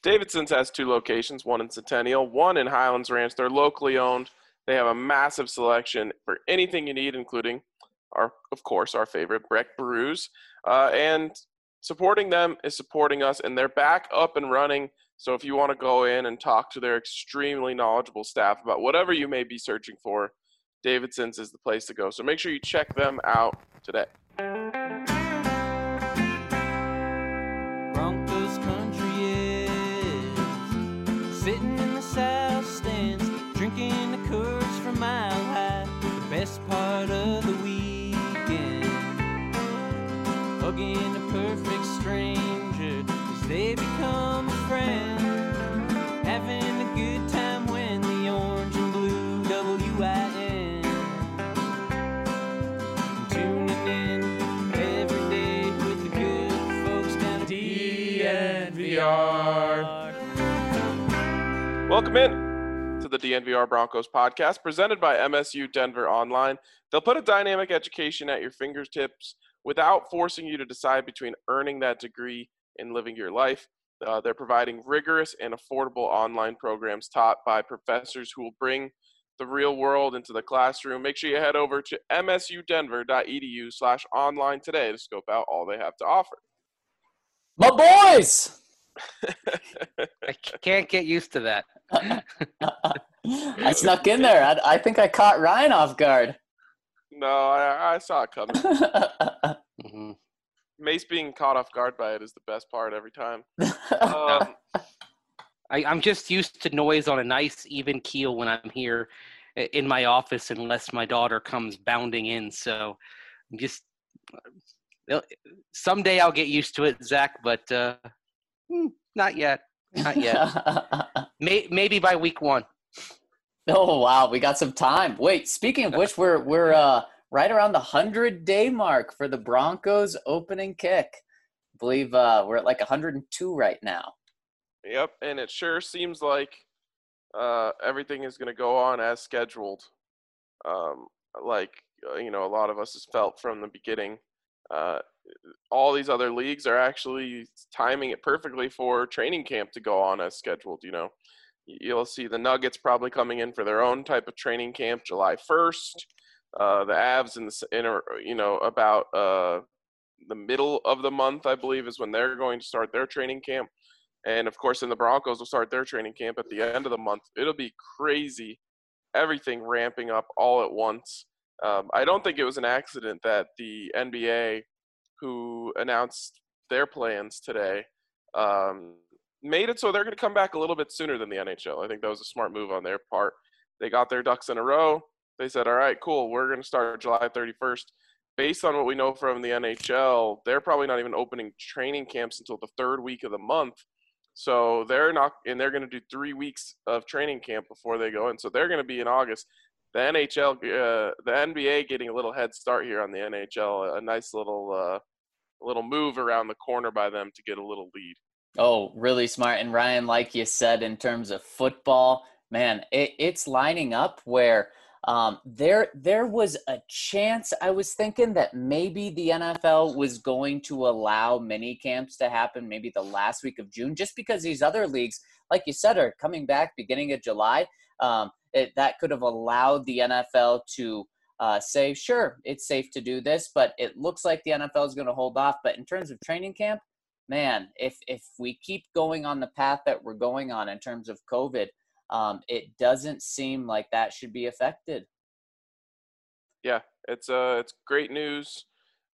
Davidson's has 2 locations, one in Centennial, one in Highlands Ranch. They're locally owned. They have a massive selection for anything you need, including, of course, our favorite Breck brews. And supporting them is supporting us, and they're back up and running. So if you want to go in and talk to their extremely knowledgeable staff about whatever you may be searching for, Davidson's is the place to go. So make sure you check them out today. Broncos country is sitting in the south stands, drinking the Coors from Mile High. The best part of the weekend, hugging a perfect stranger as they become a friend, having a good time when the orange and blue WIN, tuning in every day with the good folks down at DNVR. Welcome in to the DNVR Broncos podcast, presented by MSU Denver Online. They'll put a dynamic education at your fingertips without forcing you to decide between earning that degree and living your life. They're providing rigorous and affordable online programs taught by professors who will bring the real world into the classroom. Make sure you head over to msudenver.edu/online today to scope out all they have to offer. My boys! I can't get used to that. I snuck in there. I think I caught Ryan off guard. No, I saw it coming. Mhm. Mace being caught off guard by it is the best part every time. I'm just used to noise on a nice, even keel when I'm here in my office, unless my daughter comes bounding in. So I'm just someday I'll get used to it, Zach, but not yet. Not yet. Maybe by week 1. Oh, wow. We got some time. Wait, speaking of which, we're right around the 100-day mark for the Broncos opening kick. I believe we're at like 102 right now. Yep, and it sure seems like everything is going to go on as scheduled. A lot of us has felt from the beginning. All these other leagues are actually timing it perfectly for training camp to go on as scheduled. You know, you'll see the Nuggets probably coming in for their own type of training camp July 1st. The Avs about the middle of the month, I believe, is when they're going to start their training camp. And, of course, then the Broncos will start their training camp at the end of the month. It'll be crazy, everything ramping up all at once. I don't think it was an accident that the NBA, who announced their plans today, made it so they're going to come back a little bit sooner than the NHL. I think that was a smart move on their part. They got their ducks in a row. They said, all right, cool, we're going to start July 31st. Based on what we know from the NHL, they're probably not even opening training camps until the 3rd week of the month. So they're going to do 3 weeks of training camp before they go in. So they're going to be in August. The NBA getting a little head start here on the NHL, a nice little move around the corner by them to get a little lead. Oh, really smart. And Ryan, like you said, in terms of football, man, it's lining up where there was a chance. I was thinking that maybe the NFL was going to allow mini camps to happen maybe the last week of June, just because these other leagues, like you said, are coming back beginning of July. That could have allowed the NFL to say, sure, it's safe to do this, but it looks like the NFL is going to hold off. But in terms of training camp, man, if we keep going on the path that we're going on in terms of COVID, it doesn't seem like that should be affected. Yeah, it's great news,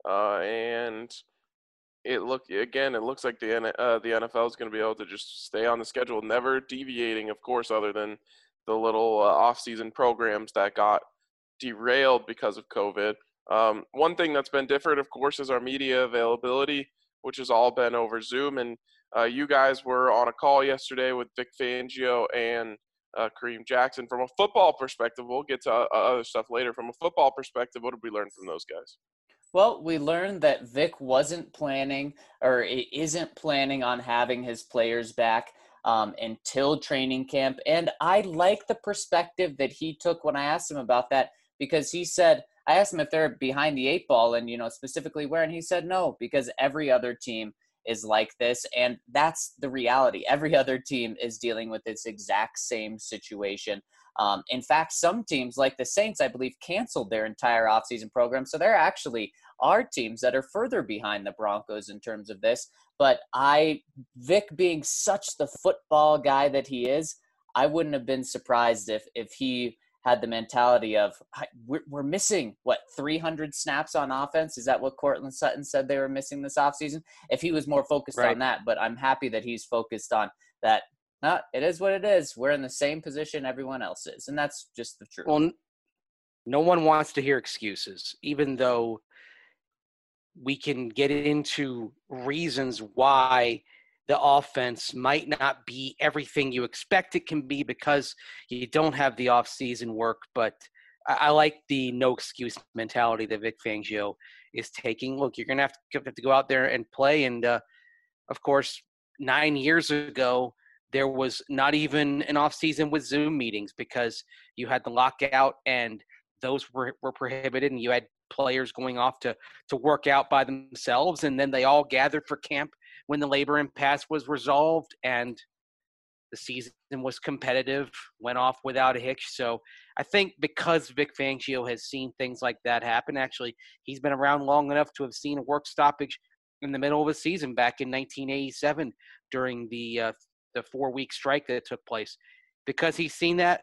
and it looks like the NFL is going to be able to just stay on the schedule, never deviating, of course, other than the little off-season programs that got derailed because of COVID. One thing that's been different, of course, is our media availability, which has all been over Zoom, and you guys were on a call yesterday with Vic Fangio and Kareem Jackson. From a football perspective, we'll get to other stuff later. From a football perspective, what did we learn from those guys? Well, we learned that Vic wasn't planning or isn't planning on having his players back until training camp. And I like the perspective that he took when I asked him about that, because he said, I asked him if they're behind the 8 ball and, specifically where, and he said no, because every other team is like this. And that's the reality. Every other team is dealing with this exact same situation. In fact, some teams like the Saints, I believe, canceled their entire offseason program. So there actually are teams that are further behind the Broncos in terms of this. But Vic being such the football guy that he is, I wouldn't have been surprised if he had the mentality of, we're missing, 300 snaps on offense? Is that what Cortland Sutton said they were missing this offseason? If he was more focused on that, but I'm happy that he's focused on that. It is what it is. We're in the same position everyone else is, and that's just the truth. Well, no one wants to hear excuses, even though we can get into reasons why the offense might not be everything you expect it can be because you don't have the off-season work. But I like the no excuse mentality that Vic Fangio is taking. Look, you're going to have to go out there and play. And, of course, 9 years ago, there was not even an off-season with Zoom meetings because you had the lockout and those were prohibited, and you had players going off to work out by themselves, and then they all gathered for camp when the labor impasse was resolved and the season was competitive, went off without a hitch. So I think because Vic Fangio has seen things like that happen, actually, he's been around long enough to have seen a work stoppage in the middle of a season back in 1987 during the 4-week strike that took place. Because he's seen that,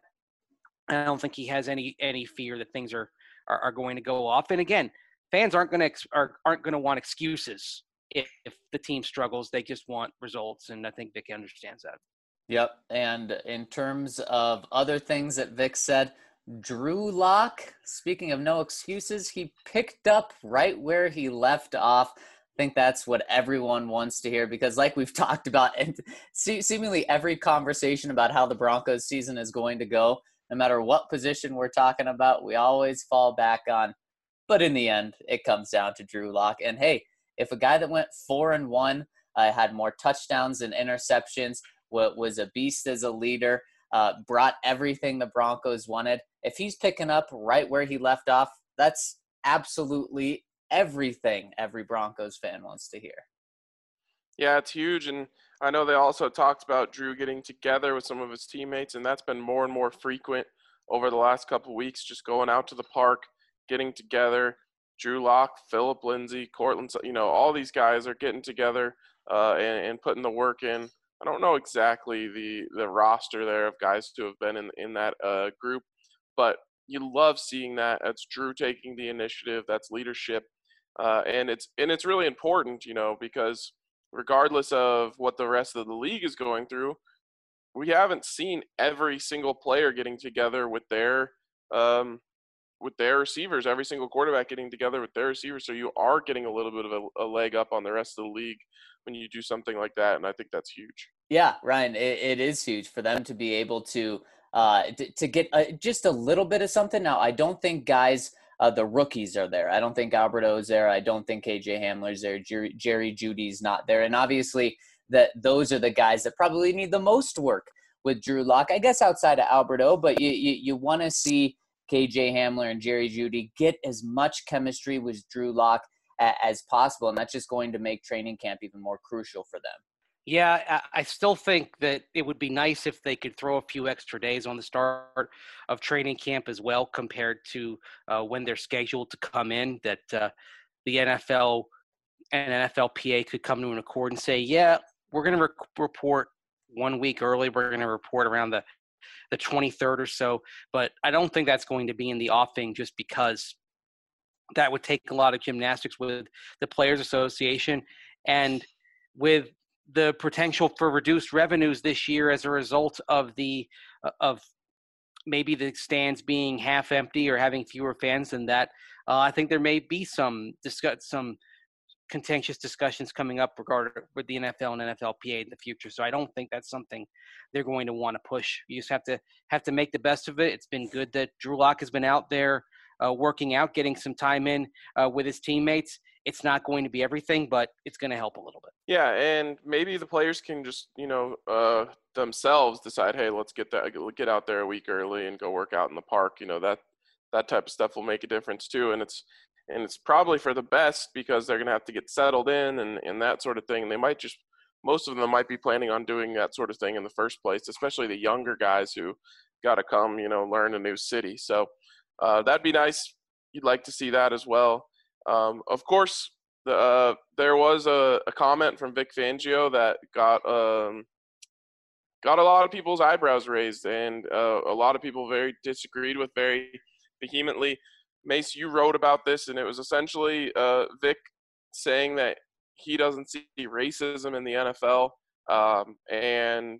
I don't think he has any fear that things are going to go off. And again, fans aren't going to want excuses if the team struggles. They just want results, and I think Vic understands that. Yep. And in terms of other things that Vic said, Drew Lock, speaking of no excuses, he picked up right where he left off. I think that's what everyone wants to hear because like we've talked about, and seemingly every conversation about how the Broncos season is going to go, no matter what position we're talking about, we always fall back on. But in the end, it comes down to Drew Lock. And hey, if a guy that went 4-1, had more touchdowns than interceptions, was a beast as a leader, brought everything the Broncos wanted, if he's picking up right where he left off, that's absolutely everything every Broncos fan wants to hear. Yeah, it's huge. And I know they also talked about Drew getting together with some of his teammates, and that's been more and more frequent over the last couple of weeks, just going out to the park, getting together. Drew Lock, Phillip Lindsay, Cortland, all these guys are getting together and putting the work in. I don't know exactly the roster there of guys who have been in that group, but you love seeing that. That's Drew taking the initiative. That's leadership, and it's really important, because regardless of what the rest of the league is going through, we haven't seen every single player getting together with their receivers, every single quarterback getting together with their receivers. So you are getting a little bit of a leg up on the rest of the league when you do something like that. And I think that's huge. Yeah, Ryan, it is huge for them to be able to get just a little bit of something. Now, I don't think guys, the rookies are there. I don't think Alberto's there. I don't think KJ Hamler's there. Jerry Jeudy's not there. And obviously those are the guys that probably need the most work with Drew Lock, I guess outside of Alberto, but you want to see KJ Hamler and Jerry Jeudy get as much chemistry with Drew Lock as possible. And that's just going to make training camp even more crucial for them. Yeah, I still think that it would be nice if they could throw a few extra days on the start of training camp as well compared to when they're scheduled to come in, that the NFL and NFLPA could come to an accord and say, yeah, we're going to report 1 week early. We're going to report around the 23rd or so. But I don't think that's going to be in the offing just because that would take a lot of gymnastics with the Players Association and with the potential for reduced revenues this year as a result of of maybe the stands being half empty or having fewer fans than that. I think there may be some contentious discussions coming up regarding with the NFL and NFLPA in the future. So I don't think that's something they're going to want to push. You just have to make the best of it. It's been good that Drew Lock has been out there working out, getting some time in with his teammates. It's not going to be everything, but it's going to help a little bit. Yeah, and maybe the players can just, themselves decide, hey, let's get out there a week early and go work out in the park. That type of stuff will make a difference too. And and it's probably for the best because they're going to have to get settled in and that sort of thing. And they might just, most of them might be planning on doing that sort of thing in the first place, especially the younger guys who got to come, learn a new city. So that'd be nice. You'd like to see that as well. Of course, there was a comment from Vic Fangio that got a lot of people's eyebrows raised, and a lot of people very disagreed with very vehemently. Mace, you wrote about this, and it was essentially Vic saying that he doesn't see racism in the NFL, and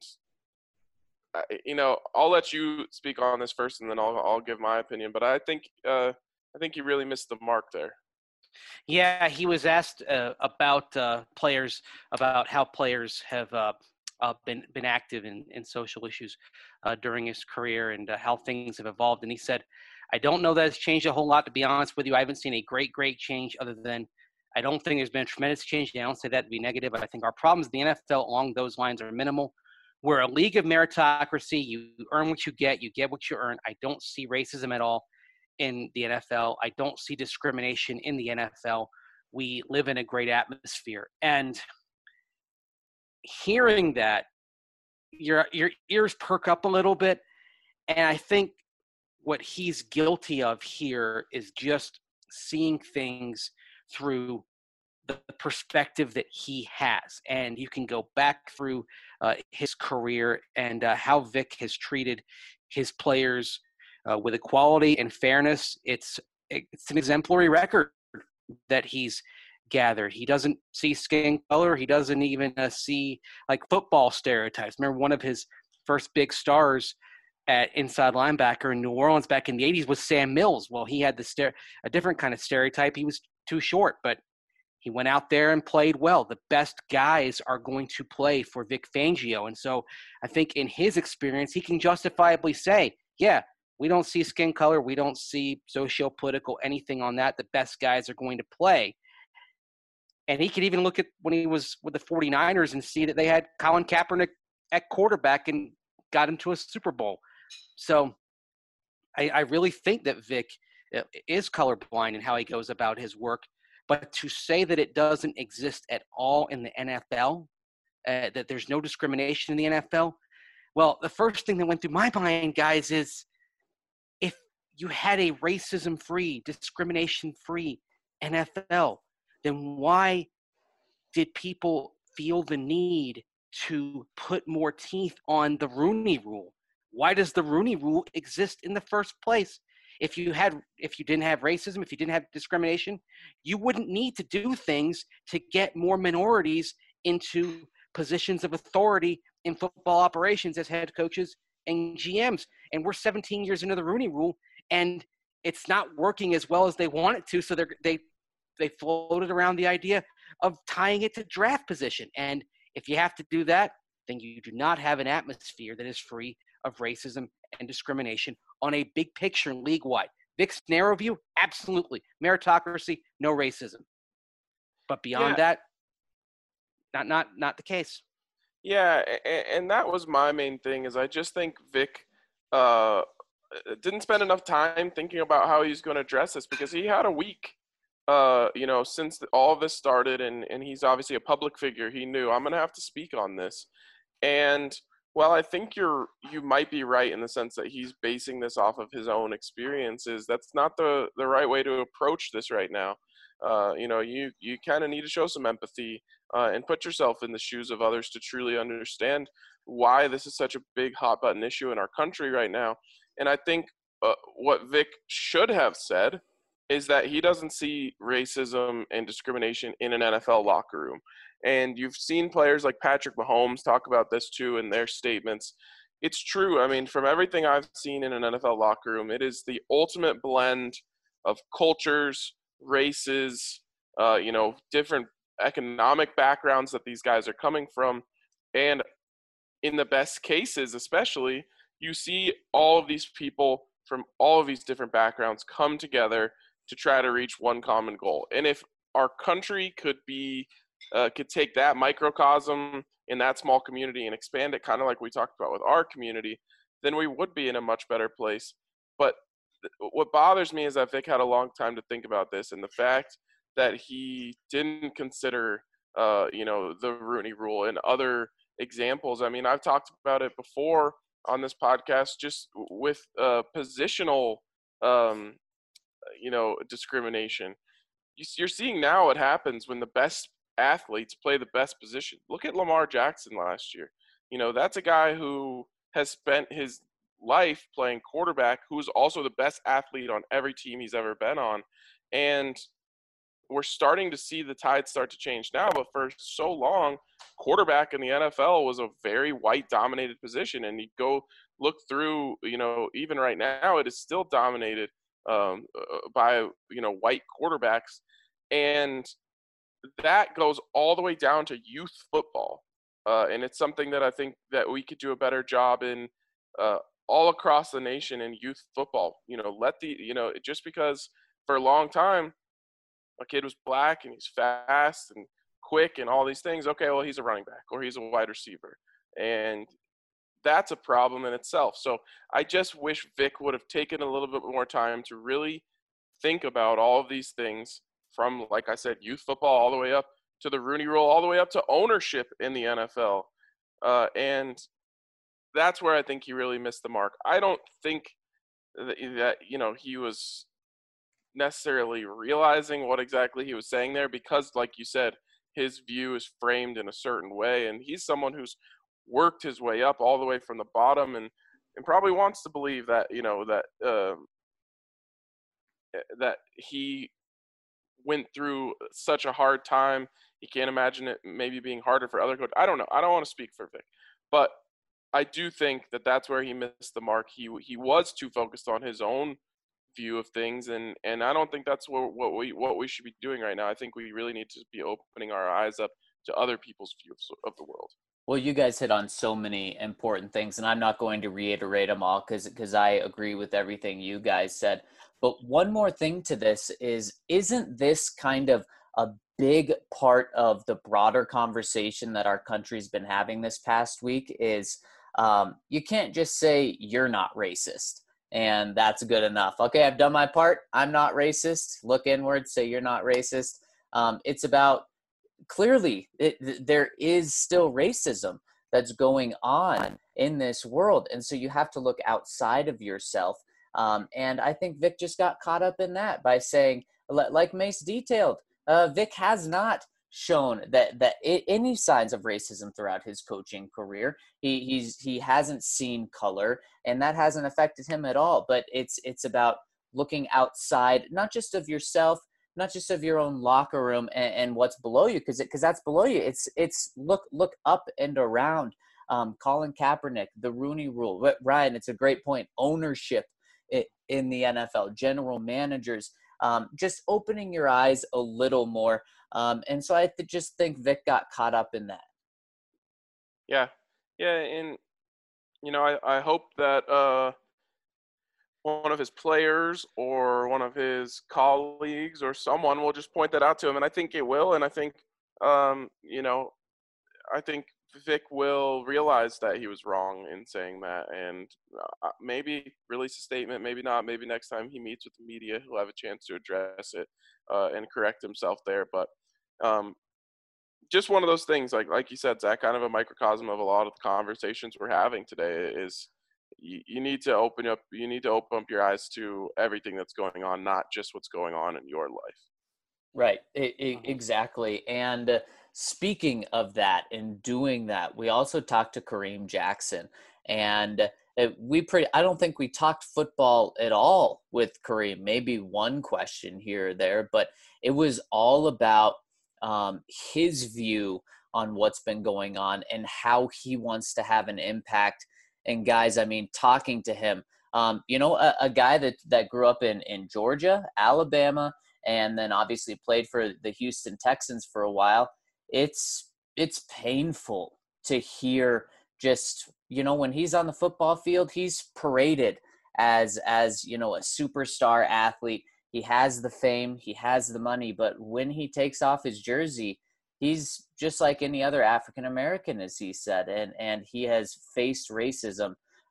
I'll let you speak on this first, and then I'll give my opinion. But I think he really missed the mark there. Yeah, he was asked about players, about how players have been active in social issues during his career and how things have evolved. And he said, I don't know that it's changed a whole lot, to be honest with you. I haven't seen a great change other than I don't think there's been a tremendous change. I don't say that to be negative. I think our problems in the NFL along those lines are minimal. We're a league of meritocracy. You earn what you get what you earn. I don't see racism at all in the NFL. I don't see discrimination in the NFL. We live in a great atmosphere. And hearing that, your ears perk up a little bit. And I think what he's guilty of here is just seeing things through the perspective that he has. And you can go back through his career and how Vic has treated his players with equality and fairness. It's an exemplary record that he's gathered. He doesn't see skin color. He doesn't even see like football stereotypes. Remember, one of his first big stars at inside linebacker in New Orleans back in the 80s was Sam Mills. Well, he had a different kind of stereotype. He was too short, but he went out there and played well. The best guys are going to play for Vic Fangio. And so I think in his experience, he can justifiably say, yeah, we don't see skin color. We don't see socio-political anything on that. The best guys are going to play. And he could even look at when he was with the 49ers and see that they had Colin Kaepernick at quarterback and got into a Super Bowl. So I really think that Vic is colorblind in how he goes about his work. But to say that it doesn't exist at all in the NFL, that there's no discrimination in the NFL, well, the first thing that went through my mind, guys, is if you had a racism-free, discrimination-free NFL, then why did people feel the need to put more teeth on the Rooney Rule? Why does the Rooney Rule exist in the first place? If you didn't have racism, if you didn't have discrimination, you wouldn't need to do things to get more minorities into positions of authority in football operations as head coaches and GMs. And we're 17 years into the Rooney Rule, and it's not working as well as they want it to. So they floated around the idea of tying it to draft position. And if you have to do that, then you do not have an atmosphere that is free of racism and discrimination on a big picture league-wide. Vic's narrow view, absolutely. Meritocracy, no racism. But beyond that, not the case. Yeah, and that was my main thing, is I just think Vic didn't spend enough time thinking about how he's going to address this, because he had a week, since all of this started, and he's obviously a public figure. He knew, I'm going to have to speak on this. And well, I think you might be right in the sense that he's basing this off of his own experiences. That's not the right way to approach this right now. You kind of need to show some empathy and put yourself in the shoes of others to truly understand why this is such a big hot button issue in our country right now. And I think what Vic should have said is that he doesn't see racism and discrimination in an NFL locker room. And you've seen players like Patrick Mahomes talk about this too in their statements. It's true. I mean, from everything I've seen in an NFL locker room, it is the ultimate blend of cultures, races, different economic backgrounds that these guys are coming from. And in the best cases, especially, you see all of these people from all of these different backgrounds come together to try to reach one common goal. And if our country could take that microcosm in that small community and expand it kind of like we talked about with our community, then we would be in a much better place. But what bothers me is that Vic had a long time to think about this, and the fact that he didn't consider, the Rooney Rule and other examples. I mean, I've talked about it before on this podcast, just with positional, um, discrimination. You're seeing now what happens when the best athletes play the best position. Look at Lamar Jackson last year. That's a guy who has spent his life playing quarterback, who's also the best athlete on every team he's ever been on. And we're starting to see the tide start to change now, but for so long, quarterback in the NFL was a very white dominated position. And you go look through, even right now, it is still dominated by, white quarterbacks. And that goes all the way down to youth football. And it's something that I think that we could do a better job in all across the nation in youth football. Just because for a long time, a kid was black and he's fast and quick and all these things. Okay, well, he's a running back or he's a wide receiver. And that's a problem in itself. So I just wish Vic would have taken a little bit more time to really think about all of these things from, like I said, youth football all the way up to the Rooney Rule, all the way up to ownership in the NFL. And that's where I think he really missed the mark. I don't think that he was necessarily realizing what exactly he was saying there, because like you said, his view is framed in a certain way, and he's someone who's worked his way up all the way from the bottom, and probably wants to believe that that he went through such a hard time. He can't imagine it maybe being harder for other coaches. I don't know. I don't want to speak for Vic, but I do think that that's where he missed the mark. He was too focused on his own view of things, and I don't think that's what we should be doing right now. I think we really need to be opening our eyes up to other people's views of the world. Well, you guys hit on so many important things, and I'm not going to reiterate them all because I agree with everything you guys said. But one more thing to this isn't this kind of a big part of the broader conversation that our country's been having this past week is you can't just say you're not racist and that's good enough. Okay, I've done my part. I'm not racist. Look inward, say you're not racist. It's about clearly there is still racism that's going on in this world. And so you have to look outside of yourself. And I think Vic just got caught up in that by saying, like Mace detailed, Vic has not shown that any signs of racism throughout his coaching career. He hasn't seen color, and that hasn't affected him at all. But it's about looking outside, not just of yourself, not just of your own locker room and what's below you, because that's below you. It's look up and around. Colin Kaepernick, the Rooney Rule. Ryan, it's a great point. Ownership in the NFL, general managers, just opening your eyes a little more. And so I just think Vic got caught up in that. Yeah, and I hope that one of his players or one of his colleagues or someone will just point that out to him, and I think it will. And I think I think Vic will realize that he was wrong in saying that, and maybe release a statement, maybe not. Maybe next time he meets with the media, he'll have a chance to address it and correct himself there. But just one of those things, like you said, Zach, kind of a microcosm of a lot of the conversations we're having today is you need to open up your eyes to everything that's going on, not just what's going on in your life. Right. Exactly. And speaking of that and doing that, we also talked to Kareem Jackson, and I don't think we talked football at all with Kareem, maybe one question here or there, but it was all about his view on what's been going on and how he wants to have an impact. And guys, I mean, talking to him, a guy that grew up in Georgia, Alabama, and then obviously played for the Houston Texans for a while. It's painful to hear just, when he's on the football field, he's paraded as a superstar athlete. He has the fame, he has the money, but when he takes off his jersey, he's just like any other African American, as he said, and he has faced racism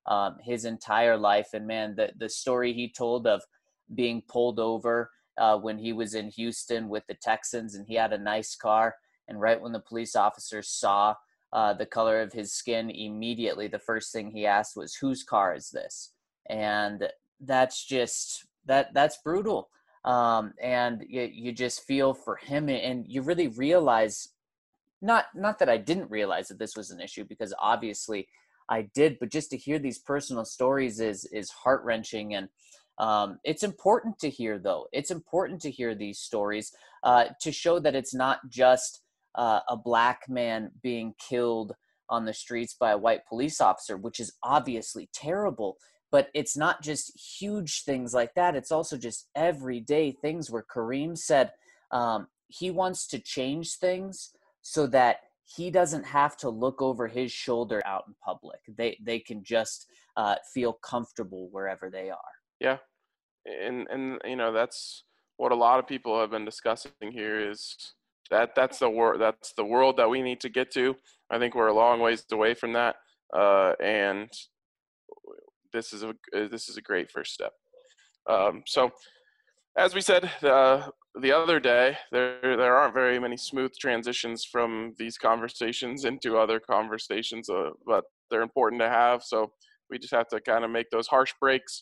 his entire life. And man, the story he told of being pulled over when he was in Houston with the Texans, and he had a nice car. And right when the police officers saw the color of his skin, immediately the first thing he asked was, "Whose car is this?" And that's just that's brutal. And you just feel for him, and you really realize, not that I didn't realize that this was an issue, because obviously I did, but just to hear these personal stories is heart-wrenching. And it's important to hear, though. It's important to hear these stories to show that it's not just a black man being killed on the streets by a white police officer, which is obviously terrible. But it's not just huge things like that. It's also just everyday things where Kareem said he wants to change things so that he doesn't have to look over his shoulder out in public. They can just feel comfortable wherever they are. Yeah, and that's what a lot of people have been discussing here, is that's the world that we need to get to. I think we're a long ways away from that, and this is a great first step. So, as we said the other day, there aren't very many smooth transitions from these conversations into other conversations, but they're important to have. So we just have to kind of make those harsh breaks.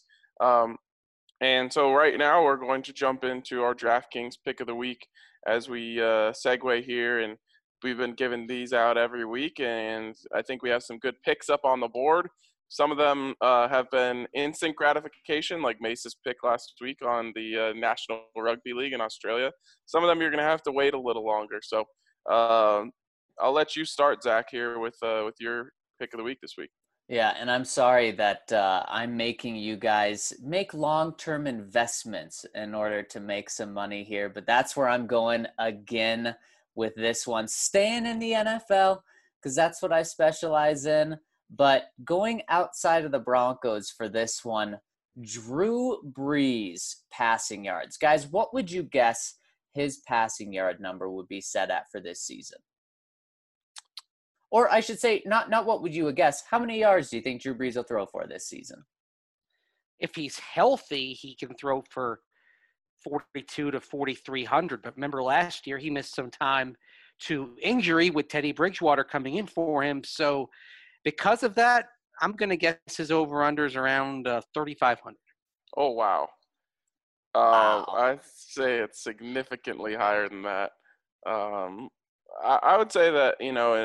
And so right now we're going to jump into our DraftKings pick of the week as we segue here. And we've been giving these out every week, and I think we have some good picks up on the board. Some of them have been instant gratification, like Mace's pick last week on the National Rugby League in Australia. Some of them you're going to have to wait a little longer. So I'll let you start, Zach, here with your pick of the week this week. Yeah, and I'm sorry that I'm making you guys make long-term investments in order to make some money here, but that's where I'm going again with this one. Staying in the NFL, because that's what I specialize in, but going outside of the Broncos for this one, Drew Brees passing yards. Guys, what would you guess his passing yard number would be set at for this season? Or I should say, not what would you guess, how many yards do you think Drew Brees will throw for this season? If he's healthy, he can throw for 42 to 4,300. But remember last year, he missed some time to injury with Teddy Bridgewater coming in for him. So because of that, I'm going to guess his over-unders around 3,500. Oh, wow. Wow. I'd say it's significantly higher than that. I would say that,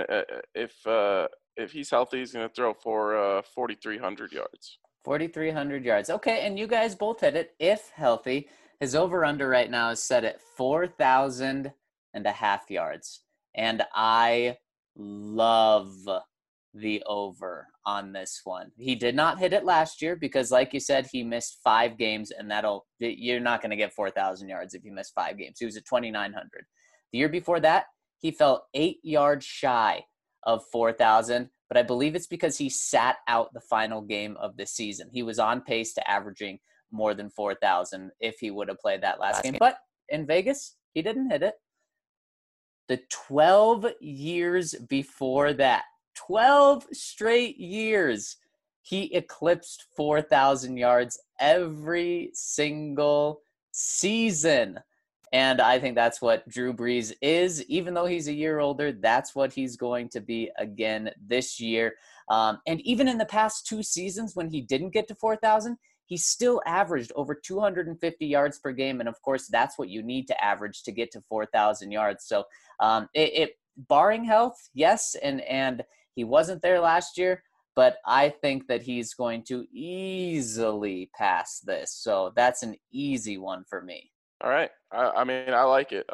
if he's healthy, he's going to throw for 4,300 yards. 4,300 yards. Okay, and you guys both hit it. If healthy, his over-under right now is set at 4,000 and a half yards. And I love the over on this one. He did not hit it last year because, like you said, he missed 5 games, and you're not going to get 4,000 yards if you miss 5 games. He was at 2,900. The year before that, he fell 8 yards shy of 4,000, but I believe it's because he sat out the final game of the season. He was on pace to averaging more than 4,000 if he would have played that last game. But in Vegas, he didn't hit it. The 12 years before that, 12 straight years, he eclipsed 4,000 yards every single season. And I think that's what Drew Brees is. Even though he's a year older, that's what he's going to be again this year. And even in the past 2 seasons when he didn't get to 4,000, he still averaged over 250 yards per game. And, of course, that's what you need to average to get to 4,000 yards. So barring health, yes, and he wasn't there last year, but I think that he's going to easily pass this. So that's an easy one for me. All right. I mean, I like it.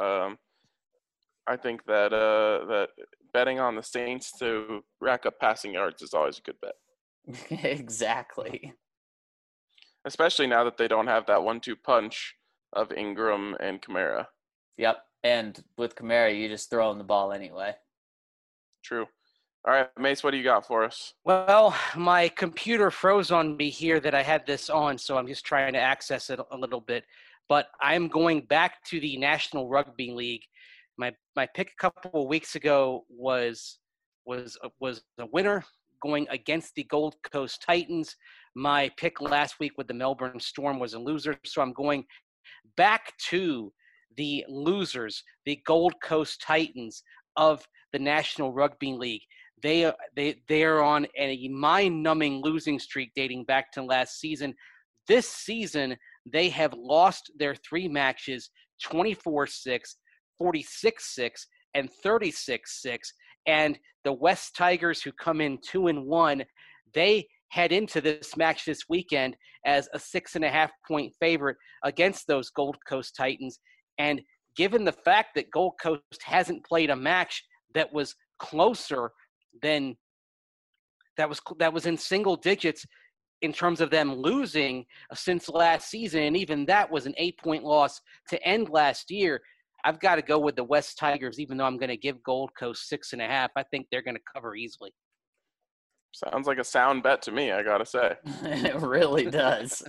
I think that that betting on the Saints to rack up passing yards is always a good bet. Exactly. Especially now that they don't have that 1-2 punch of Ingram and Kamara. Yep. And with Kamara, you just throw him the ball anyway. True. All right, Mace, what do you got for us? Well, my computer froze on me here that I had this on, so I'm just trying to access it a little bit. But I'm going back to the National Rugby League. My pick a couple of weeks ago was a winner going against the Gold Coast Titans. My pick last week with the Melbourne Storm was a loser, so I'm going back to the losers, the Gold Coast Titans of the National Rugby League. They are on a mind-numbing losing streak dating back to last season. This season, they have lost their 3 matches, 24-6, 46-6, and 36-6. And the West Tigers, who come in 2-1, they head into this match this weekend as a 6.5-point favorite against those Gold Coast Titans. And given the fact that Gold Coast hasn't played a match that was closer than that was in single digits in terms of them losing since last season, and even that was an 8-point loss to end last year, I've got to go with the West Tigers, even though I'm going to give Gold Coast 6.5. I think they're going to cover easily. Sounds like a sound bet to me, I got to say. It really does.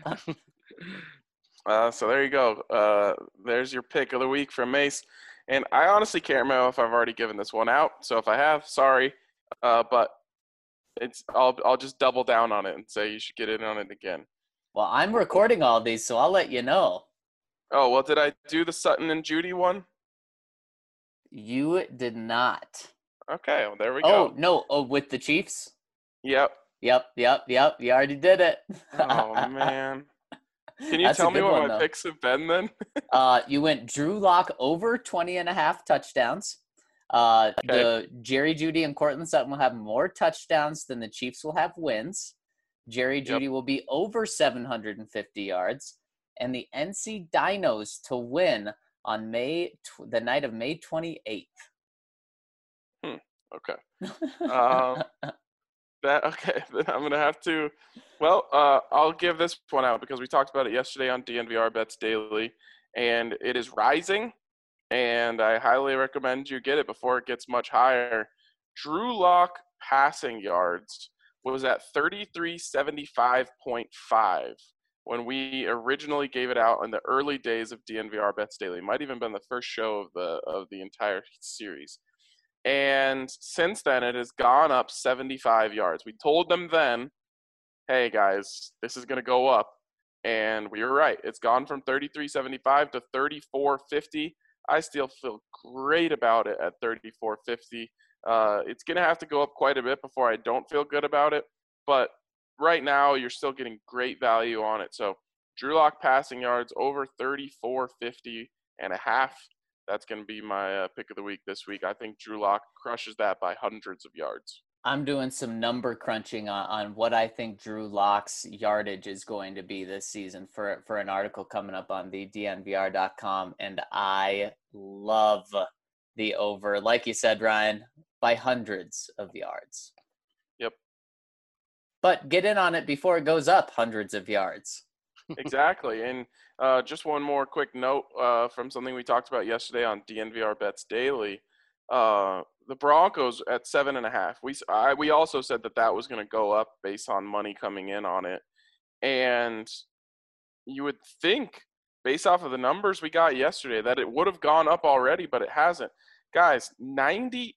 So there you go. There's your pick of the week from Mace. And I honestly can't remember if I've already given this one out. So if I have, sorry. But I'll just double down on it and say you should get in on it again. Well, I'm recording all these, so I'll let you know. Oh, well, did I do the Sutton and Judy one? You did not. Okay, well, there we go. Oh, no. Oh, with the Chiefs? Yep. Yep. You already did it. Oh, man. Can you That's a tell me good what one, my though. picks have been then? You went Drew Lock over 20.5 touchdowns. The Jerry Jeudy and Cortland Sutton will have more touchdowns than the Chiefs will have wins. Jerry Jeudy will be over 750 yards. And the NC Dinos to win on the night of May 28th. Okay. Okay, then I'm going to have to – well, I'll give this one out because we talked about it yesterday on DNVR Bets Daily, and it is rising, and I highly recommend you get it before it gets much higher. Drew Lock passing yards was at 3375.5 when we originally gave it out in the early days of DNVR Bets Daily. It might even been the first show of the entire series. And since then, it has gone up 75 yards. We told them then, hey, guys, this is going to go up. And we were right. It's gone from 33.75 to 34.50. I still feel great about it at 34.50. It's going to have to go up quite a bit before I don't feel good about it. But right now, you're still getting great value on it. So Drew Lock passing yards over 34.50 and a half. That's going to be my pick of the week this week. I think Drew Lock crushes that by hundreds of yards. I'm doing some number crunching on what I think Drew Lock's yardage is going to be this season for an article coming up on the DNVR.com, and I love the over, like you said, Ryan, by hundreds of yards. Yep. But get in on it before it goes up hundreds of yards. Exactly. And just one more quick note from something we talked about yesterday on DNVR Bets Daily. The Broncos at 7.5. We also said that was going to go up based on money coming in on it. And you would think, based off of the numbers we got yesterday, that it would have gone up already, but it hasn't. Guys, 98%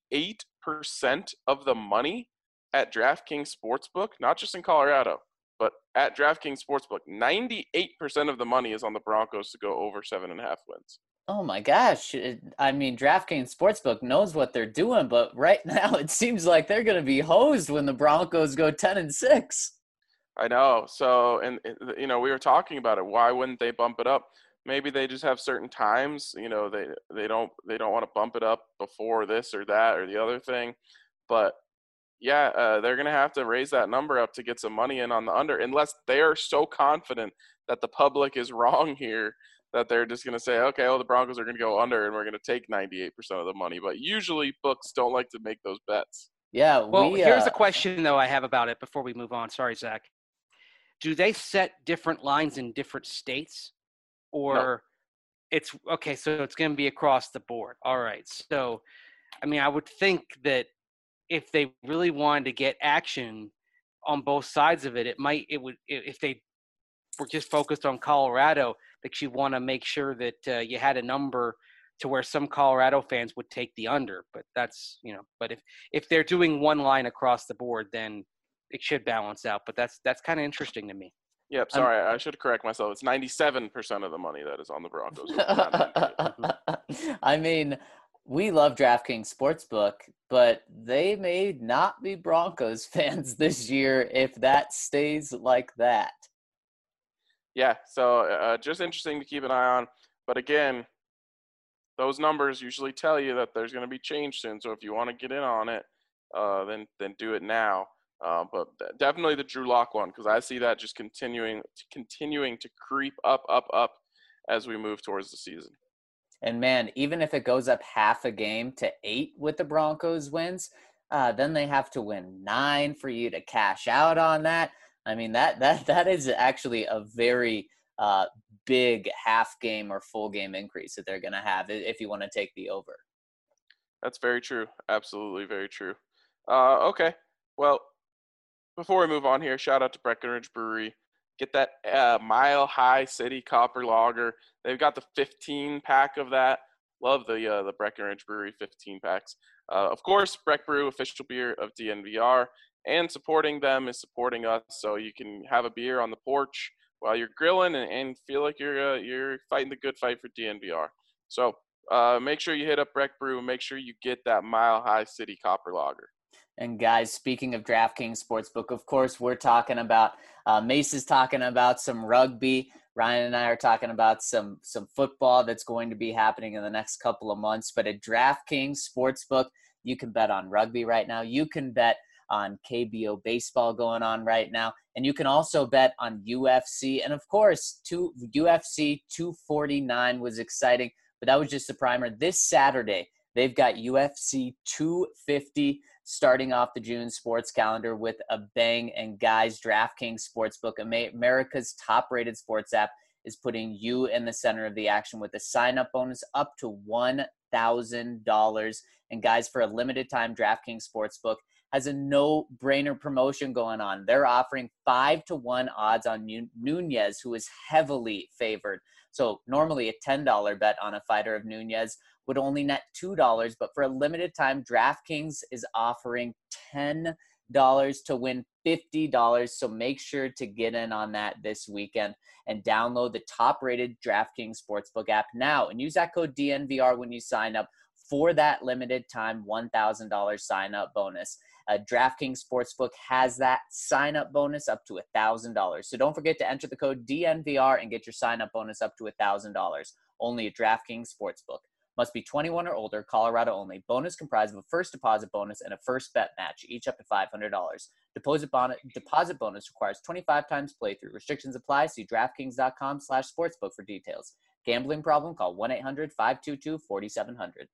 of the money at DraftKings Sportsbook, not just in Colorado, but at DraftKings Sportsbook, 98% of the money is on the Broncos to go over 7.5 wins. Oh my gosh. I mean, DraftKings Sportsbook knows what they're doing, but right now it seems like they're going to be hosed when the Broncos go 10-6. I know. So, and we were talking about it. Why wouldn't they bump it up? Maybe they just have certain times, they don't want to bump it up before this or that or the other thing. But yeah, they're going to have to raise that number up to get some money in on the under, unless they are so confident that the public is wrong here that they're just going to say, okay, well, the Broncos are going to go under and we're going to take 98% of the money. But usually books don't like to make those bets. Yeah. Well, here's the question, though, I have about it before we move on. Sorry, Zach. Do they set different lines in different states? Or No. It's – okay, so it's going to be across the board. All right. So, I mean, I would think that if they really wanted to get action on both sides of it, if they were just focused on Colorado, that you want to make sure that you had a number to where some Colorado fans would take the under. But that's, but if they're doing one line across the board, then it should balance out. But that's kind of interesting to me. Yep, sorry, I should correct myself. It's 97% of the money that is on the Broncos. Not 98. I mean, we love DraftKings Sportsbook, but they may not be Broncos fans this year if that stays like that. Yeah, so just interesting to keep an eye on. But again, those numbers usually tell you that there's going to be change soon. So if you want to get in on it, then do it now. But definitely the Drew Lock one, because I see that just continuing to creep up as we move towards the season. And man, even if it goes up half a game to 8 with the Broncos wins, then they have to win 9 for you to cash out on that. I mean, that is actually a very big half game or full game increase that they're going to have if you want to take the over. That's very true. Absolutely very true. Okay. Well, before we move on here, shout out to Breckenridge Brewery. Get that Mile High City Copper Lager. They've got the 15-pack of that. Love the Breckenridge Brewery 15 packs. Of course, Breck Brew, official beer of DNVR, and supporting them is supporting us. So you can have a beer on the porch while you're grilling and feel like you're fighting the good fight for DNVR. So make sure you hit up Breck Brew. Make sure you get that Mile High City Copper Lager. And guys, speaking of DraftKings Sportsbook, of course, we're talking about Mace is talking about some rugby. Ryan and I are talking about some football that's going to be happening in the next couple of months. But at DraftKings Sportsbook, you can bet on rugby right now. You can bet on KBO baseball going on right now. And you can also bet on UFC. And of course, UFC 249 was exciting, but that was just the primer. This Saturday, they've got UFC 250 starting off the June sports calendar with a bang. And guys, DraftKings Sportsbook, America's top-rated sports app, is putting you in the center of the action with a sign-up bonus up to $1,000. And guys, for a limited time, DraftKings Sportsbook has a no-brainer promotion going on. They're offering 5-1 odds on Nunez, who is heavily favored. So normally a $10 bet on a fighter of Nunez would only net $2, but for a limited time, DraftKings is offering $10 to win $50. So make sure to get in on that this weekend and download the top-rated DraftKings Sportsbook app now and use that code DNVR when you sign up for that limited time $1,000 sign-up bonus. DraftKings Sportsbook has that sign-up bonus up to $1,000. So don't forget to enter the code DNVR and get your sign-up bonus up to $1,000. Only at DraftKings Sportsbook. Must be 21 or older, Colorado only. Bonus comprised of a first deposit bonus and a first bet match, each up to $500. Deposit bonus requires 25 times playthrough. Restrictions apply. See DraftKings.com/sportsbook for details. Gambling problem? Call 1-800-522-4700.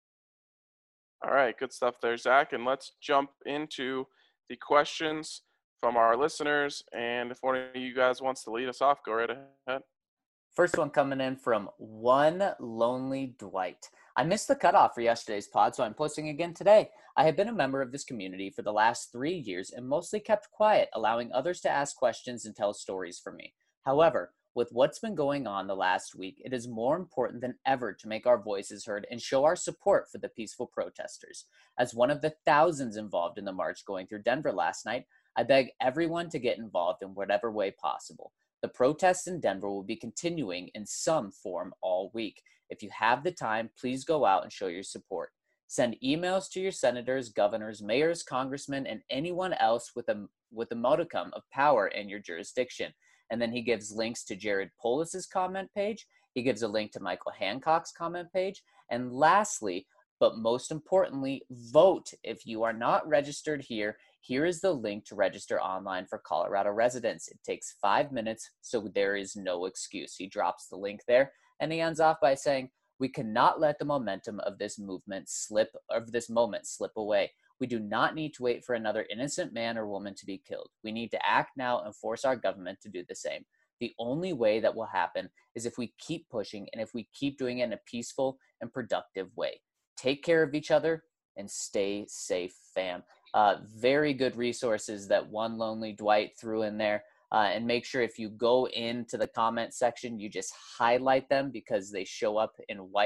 All right, good stuff there, Zach. And let's jump into the questions from our listeners. And if one of you guys wants to lead us off, go right ahead. First one coming in from One Lonely Dwight. I missed the cutoff for yesterday's pod, so I'm posting again today. I have been a member of this community for the last 3 years and mostly kept quiet, allowing others to ask questions and tell stories for me. However, with what's been going on the last week, it is more important than ever to make our voices heard and show our support for the peaceful protesters. As one of the thousands involved in the march going through Denver last night, I beg everyone to get involved in whatever way possible. The protests in Denver will be continuing in some form all week. If you have the time, please go out and show your support. Send emails to your senators, governors, mayors, congressmen, and anyone else with a modicum of power in your jurisdiction. And then he gives links to Jared Polis's comment page. He gives a link to Michael Hancock's comment page. And lastly, but most importantly, vote. If you are not registered here, here is the link to register online for Colorado residents. It takes 5 minutes, so there is no excuse. He drops the link there, and he ends off by saying, "We cannot let the momentum of this moment slip away. We do not need to wait for another innocent man or woman to be killed. We need to act now and force our government to do the same. The only way that will happen is if we keep pushing and if we keep doing it in a peaceful and productive way. Take care of each other and stay safe, fam." Very good resources that One Lonely Dwight threw in there. And make sure if you go into the comment section, you just highlight them because they show up in white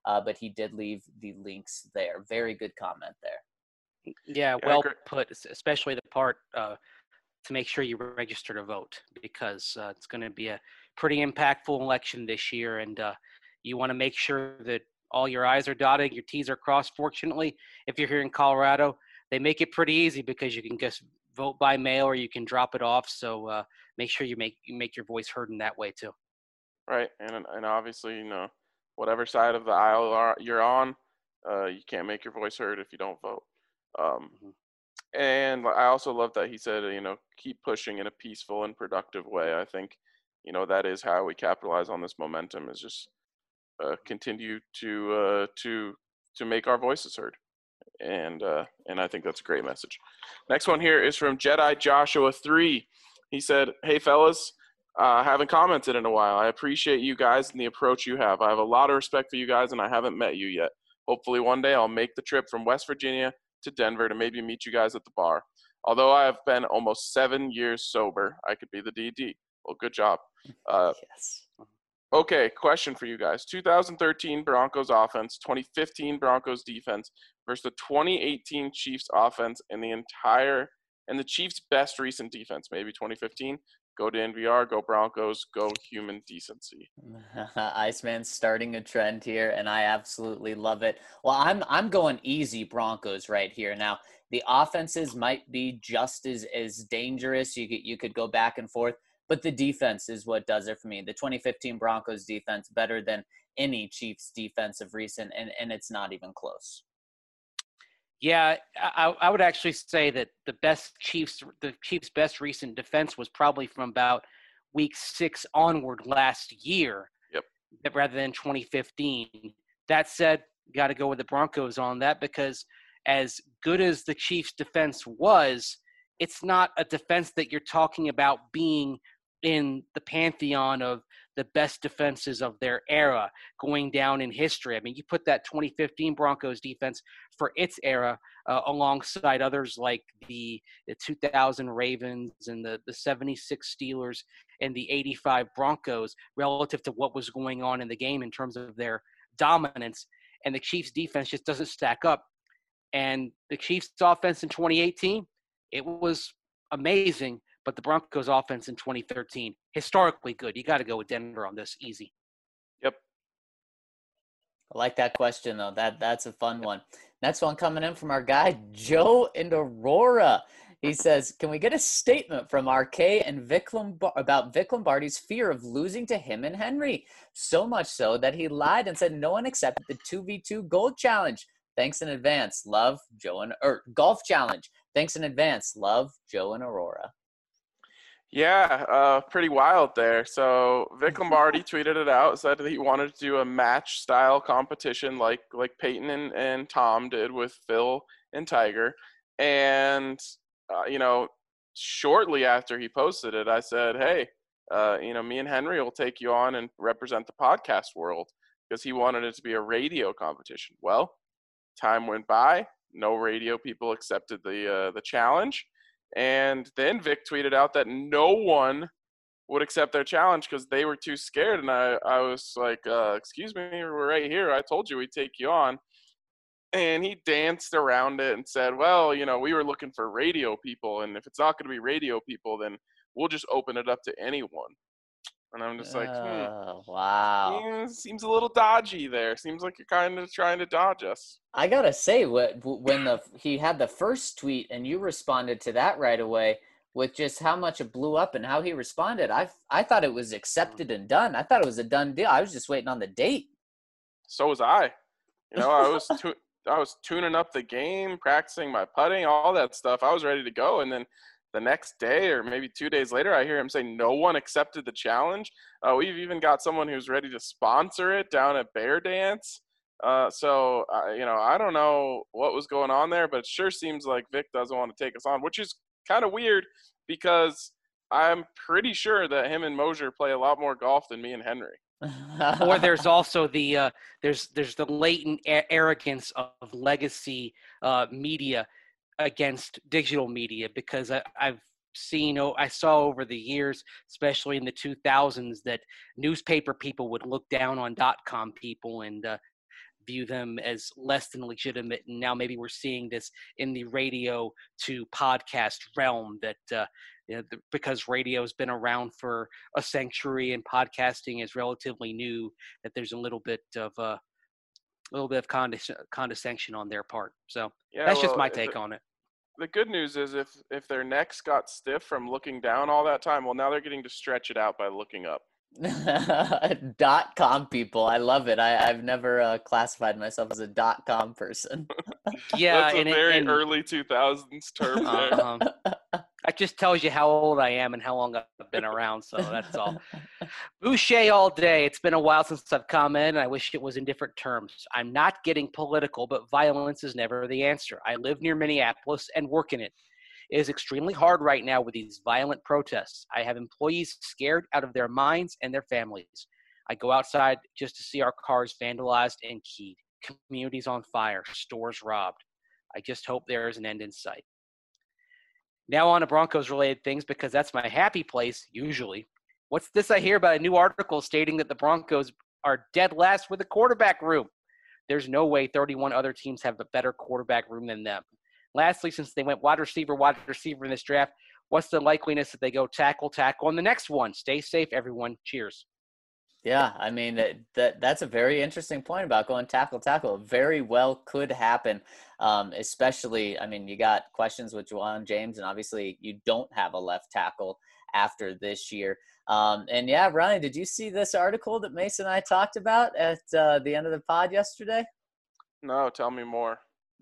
but he did leave the links there. Very good comment there. Yeah, well put, especially the part to make sure you register to vote, because it's going to be a pretty impactful election this year, and you want to make sure that all your I's are dotted, your T's are crossed. Fortunately, if you're here in Colorado, they make it pretty easy because you can just vote by mail or you can drop it off. So make sure you make your voice heard in that way too. Right, and obviously, you know, whatever side of the aisle you're on, you can't make your voice heard if you don't vote. And I also love that he said, you know, keep pushing in a peaceful and productive way. I think, you know, that is how we capitalize on this momentum, is just continue to make our voices heard. And I think that's a great message. Next one here is from Jedi Joshua 3. He said, "Hey fellas, haven't commented in a while. I appreciate you guys and the approach you have. I have a lot of respect for you guys, and I haven't met you yet. Hopefully one day I'll make the trip from West Virginia to Denver to maybe meet you guys at the bar. Although I have been almost 7 years sober, I could be the DD. Well, good job." Yes. Okay, question for you guys. 2013 Broncos offense, 2015 Broncos defense versus the 2018 Chiefs offense and the Chiefs' best recent defense, maybe 2015. Go to NVR, go Broncos, go human decency. Iceman's starting a trend here, and I absolutely love it. Well, I'm going easy Broncos right here. Now, the offenses might be just as dangerous. You could go back and forth, but the defense is what does it for me. The 2015 Broncos defense better than any Chiefs defense of recent, and it's not even close. Yeah, I would actually say that the Chiefs' best recent defense was probably from about week 6 onward last year. Yep. Rather than 2015. That said, got to go with the Broncos on that, because as good as the Chiefs' defense was, it's not a defense that you're talking about being in the pantheon of the best defenses of their era going down in history. I mean, you put that 2015 Broncos defense for its era alongside others like the 2000 Ravens and the 76 Steelers and the 85 Broncos relative to what was going on in the game in terms of their dominance. And the Chiefs defense just doesn't stack up. And the Chiefs offense in 2018, it was amazing. But the Broncos offense in 2013, historically good. You got to go with Denver on this, easy. Yep. I like that question, though. That's a fun one. Next one coming in from our guy, Joe in Aurora. He says, can we get a statement from RK and about Vic Lombardi's fear of losing to him and Henry? So much so that he lied and said no one accepted the 2v2 gold challenge. Thanks in advance. Love, Joe golf challenge. Thanks in advance. Love, Joe and Aurora. Yeah, pretty wild there. So Vic Lombardi tweeted it out, said that he wanted to do a match-style competition like Peyton and Tom did with Phil and Tiger. And, you know, shortly after he posted it, I said, hey, you know, me and Henry will take you on and represent the podcast world, because he wanted it to be a radio competition. Well, time went by. No radio people accepted the challenge. And then Vic tweeted out that no one would accept their challenge because they were too scared. And I was like, excuse me, we're right here. I told you we'd take you on. And he danced around it and said, well, you know, we were looking for radio people. And if it's not going to be radio people, then we'll just open it up to anyone. And I'm just like, wow. Seems a little dodgy there. Seems like you're kind of trying to dodge us. I gotta say, when he had the first tweet and you responded to that right away with just how much it blew up and how he responded, I thought it was accepted and done. I thought it was a done deal. I was just waiting on the date. So was I. You know, I was tuning up the game, practicing my putting, all that stuff. I was ready to go, and then the next day or maybe 2 days later, I hear him say no one accepted the challenge. We've even got someone who's ready to sponsor it down at Bear Dance. So, you know, I don't know what was going on there, but it sure seems like Vic doesn't want to take us on, which is kind of weird because I'm pretty sure that him and Mosier play a lot more golf than me and Henry. Or there's also the there's the latent arrogance of legacy media against digital media, because I saw over the years, especially in the 2000s, that newspaper people would look down on .com people, and view them as less than legitimate. And now maybe we're seeing this in the radio to podcast realm that because radio has been around for a century and podcasting is relatively new, that there's a little bit of condescension on their part. So Yeah, that's just well, my take on it. the good news is if their necks got stiff from looking down all that time, well, now they're getting to stretch it out by looking up. .com people, I love it. I've never classified myself as a .com person. Yeah, That's a very early 2000s term there. That just tells you how old I am and how long I've been around, so that's all. Boucher all day. It's been a while since I've commented, and I wish it was in different terms. I'm not getting political, but violence is never the answer. I live near Minneapolis and work in it. It is extremely hard right now with these violent protests. I have employees scared out of their minds and their families. I go outside just to see our cars vandalized and keyed, communities on fire, stores robbed. I just hope there is an end in sight. Now on to Broncos-related things, because that's my happy place, usually. What's this I hear about a new article stating that the Broncos are dead last with a quarterback room? There's no way 31 other teams have a better quarterback room than them. Lastly, since they went wide receiver in this draft, what's the likeliness that they go tackle on the next one? Stay safe, everyone. Cheers. Yeah, I mean, that's a very interesting point about going tackle. It very well could happen, especially, I mean, you got questions with Juwan James, and obviously you don't have a left tackle after this year. And yeah, Ryan, did you see this article that Mason and I talked about at the end of the pod yesterday? No, tell me more.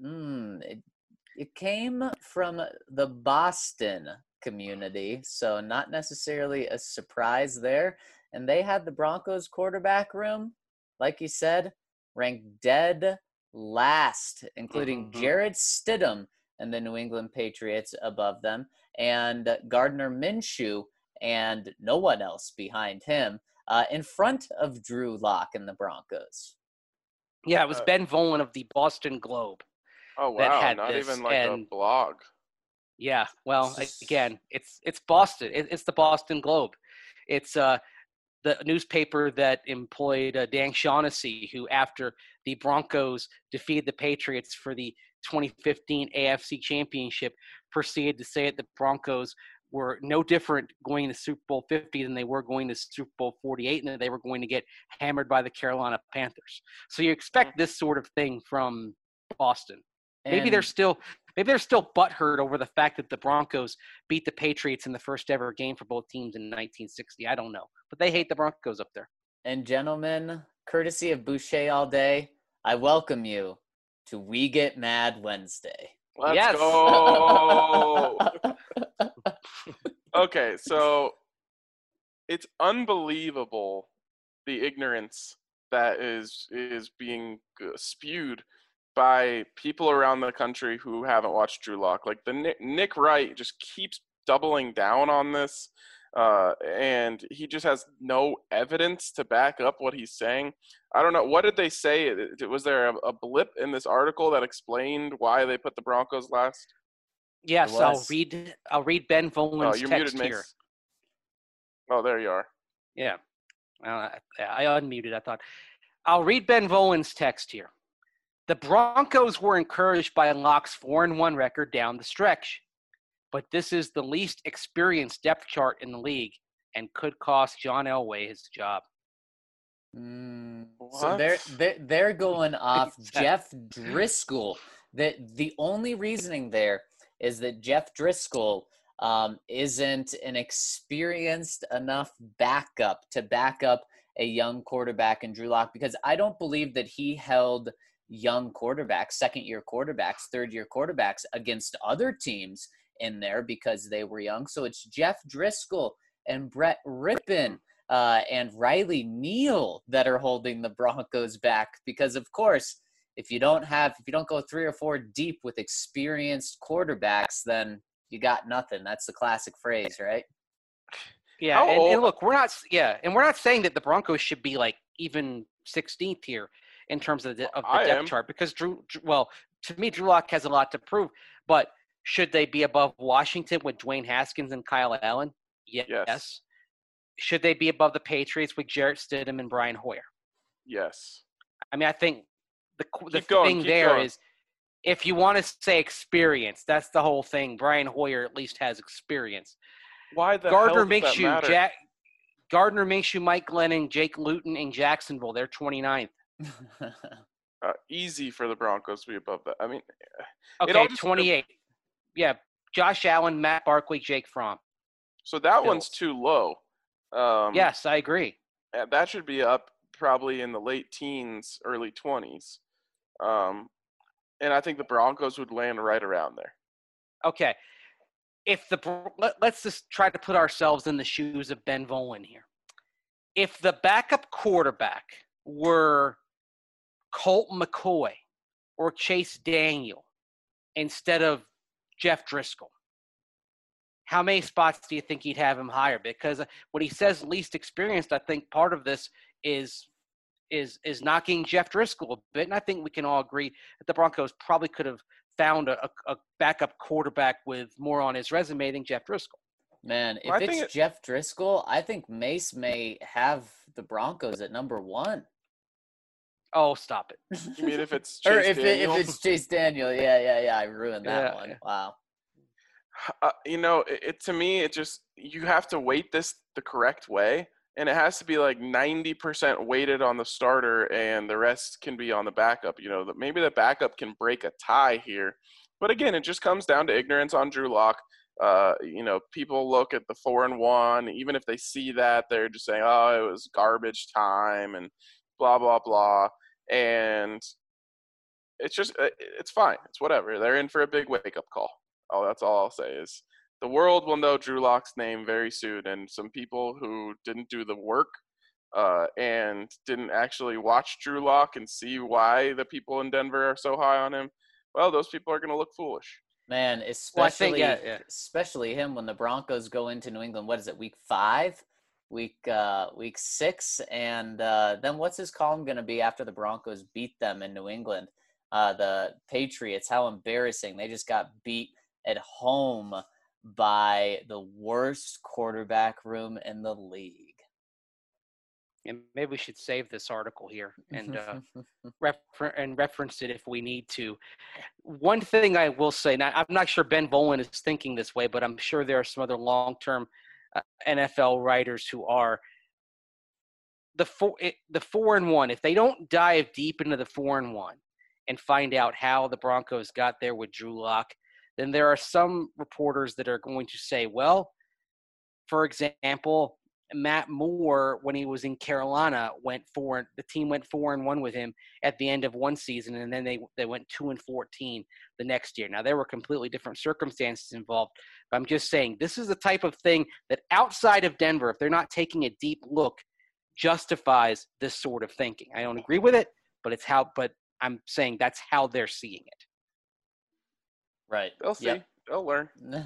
It came from the Boston community, so not necessarily a surprise there. And they had the Broncos quarterback room, like you said, ranked dead last, including Jarrett Stidham and the New England Patriots above them, and Gardner Minshew and no one else behind him, in front of Drew Lock and the Broncos. Yeah, it was Ben Volen of the Boston Globe. Oh, wow, not even like a blog. Yeah, well, again, it's Boston. It's the Boston Globe. It's the newspaper that employed Dan Shaughnessy, who after the Broncos defeated the Patriots for the 2015 AFC Championship, proceeded to say that the Broncos were no different going to Super Bowl 50 than they were going to Super Bowl 48, and that they were going to get hammered by the Carolina Panthers. So you expect this sort of thing from Boston. Maybe they're still butthurt over the fact that the Broncos beat the Patriots in the first ever game for both teams in 1960. I don't know, but they hate the Broncos up there. And gentlemen, courtesy of Boucher all day, I welcome you to We Get Mad Wednesday. Let's go. Okay, so it's unbelievable the ignorance that is being spewed by people around the country who haven't watched Drew Lock. Like Nick Wright just keeps doubling down on this, and he just has no evidence to back up what he's saying. I don't know. What did they say? Was there a blip in this article that explained why they put the Broncos last? Yes, I'll read Ben Volen's text here. Oh, there you are. Yeah. I unmuted, I thought. I'll read Ben Volen's text here. The Broncos were encouraged by Lock's 4-1 record down the stretch, but this is the least experienced depth chart in the league and could cost John Elway his job. So they're going off Jeff Driscoll. The only reasoning there is that Jeff Driscoll isn't an experienced enough backup to back up a young quarterback in Drew Lock, because I don't believe that he held young quarterbacks, second-year quarterbacks, third-year quarterbacks against other teams in there because they were young. So it's Jeff Driscoll and Brett Rippon and Riley Neal that are holding the Broncos back, because, of course, if you don't go 3 or 4 deep with experienced quarterbacks, then you got nothing. That's the classic phrase, right? Yeah, and look, we're not saying that the Broncos should be like even 16th here in terms of the depth chart, because to me, Drew Lock has a lot to prove. But should they be above Washington with Dwayne Haskins and Kyle Allen? Yes. Should they be above the Patriots with Jarrett Stidham and Brian Hoyer? Yes. I mean, I think the Keep going, thing keep there going. is, if you want to say experience, that's the whole thing. Brian Hoyer at least has experience. Why the hell Gardner does that matter? Minshew, Mike Glennon, Jake Luton in Jacksonville. They're 29th. Easy for the Broncos to be above that. I mean, it Okay, all just 28. Yeah, Josh Allen, Matt Barkley, Jake Fromm. so that Bills. one's too low. Yes, I agree. That should be up probably in the late teens, early 20s. And I think the Broncos would land right around there. Okay. Let's just try to put ourselves in the shoes of Ben Volin here. If the backup quarterback were Colt McCoy or Chase Daniel instead of Jeff Driscoll, how many spots do you think he'd have him higher? Because when he says least experienced, I think part of this is knocking Jeff Driscoll a bit, and I think we can all agree that the Broncos probably could have found a backup quarterback with more on his resume than Jeff Driscoll. Man, if Well, it's Jeff Driscoll, I think Mace may have the Broncos at number 1. Oh, stop it. You mean if it's Or Chase Daniel? if it's Chase Daniel, yeah, I ruined that one. Yeah. Wow. To me, it just, you have to weight this the correct way, and it has to be like 90% weighted on the starter and the rest can be on the backup. That maybe the backup can break a tie here. But again, it just comes down to ignorance on Drew Lock. People look at the 4-1, even if they see that, they're just saying, oh, it was garbage time and blah, blah, blah. And it's just, it's fine. It's whatever. They're in for a big wake-up call. Oh, that's all I'll say is the world will know Drew Lock's name very soon. And some people who didn't do the work and didn't actually watch Drew Lock and see why the people in Denver are so high on him, well, those people are going to look foolish. Man, especially him when the Broncos go into New England. What is it, week 5? Week 6? And then what's his column going to be after the Broncos beat them in New England? The Patriots, how embarrassing. They just got beat at home by the worst quarterback room in the league. And maybe we should save this article here and reference it if we need to. One thing I will say, now I'm not sure Ben Volin is thinking this way, but I'm sure there are some other long-term NFL writers who are. The 4-1, if they don't dive deep into the 4-1 and find out how the Broncos got there with Drew Lock, then there are some reporters that are going to say, well, for example, Matt Moore, when he was in Carolina, the team went 4-1 with him at the end of one season, and then they went 2-14 the next year. Now, there were completely different circumstances involved, but I'm just saying this is the type of thing that outside of Denver, if they're not taking a deep look, justifies this sort of thinking. I don't agree with it, but I'm saying that's how they're seeing it. Right. They'll see. Yep. They'll learn.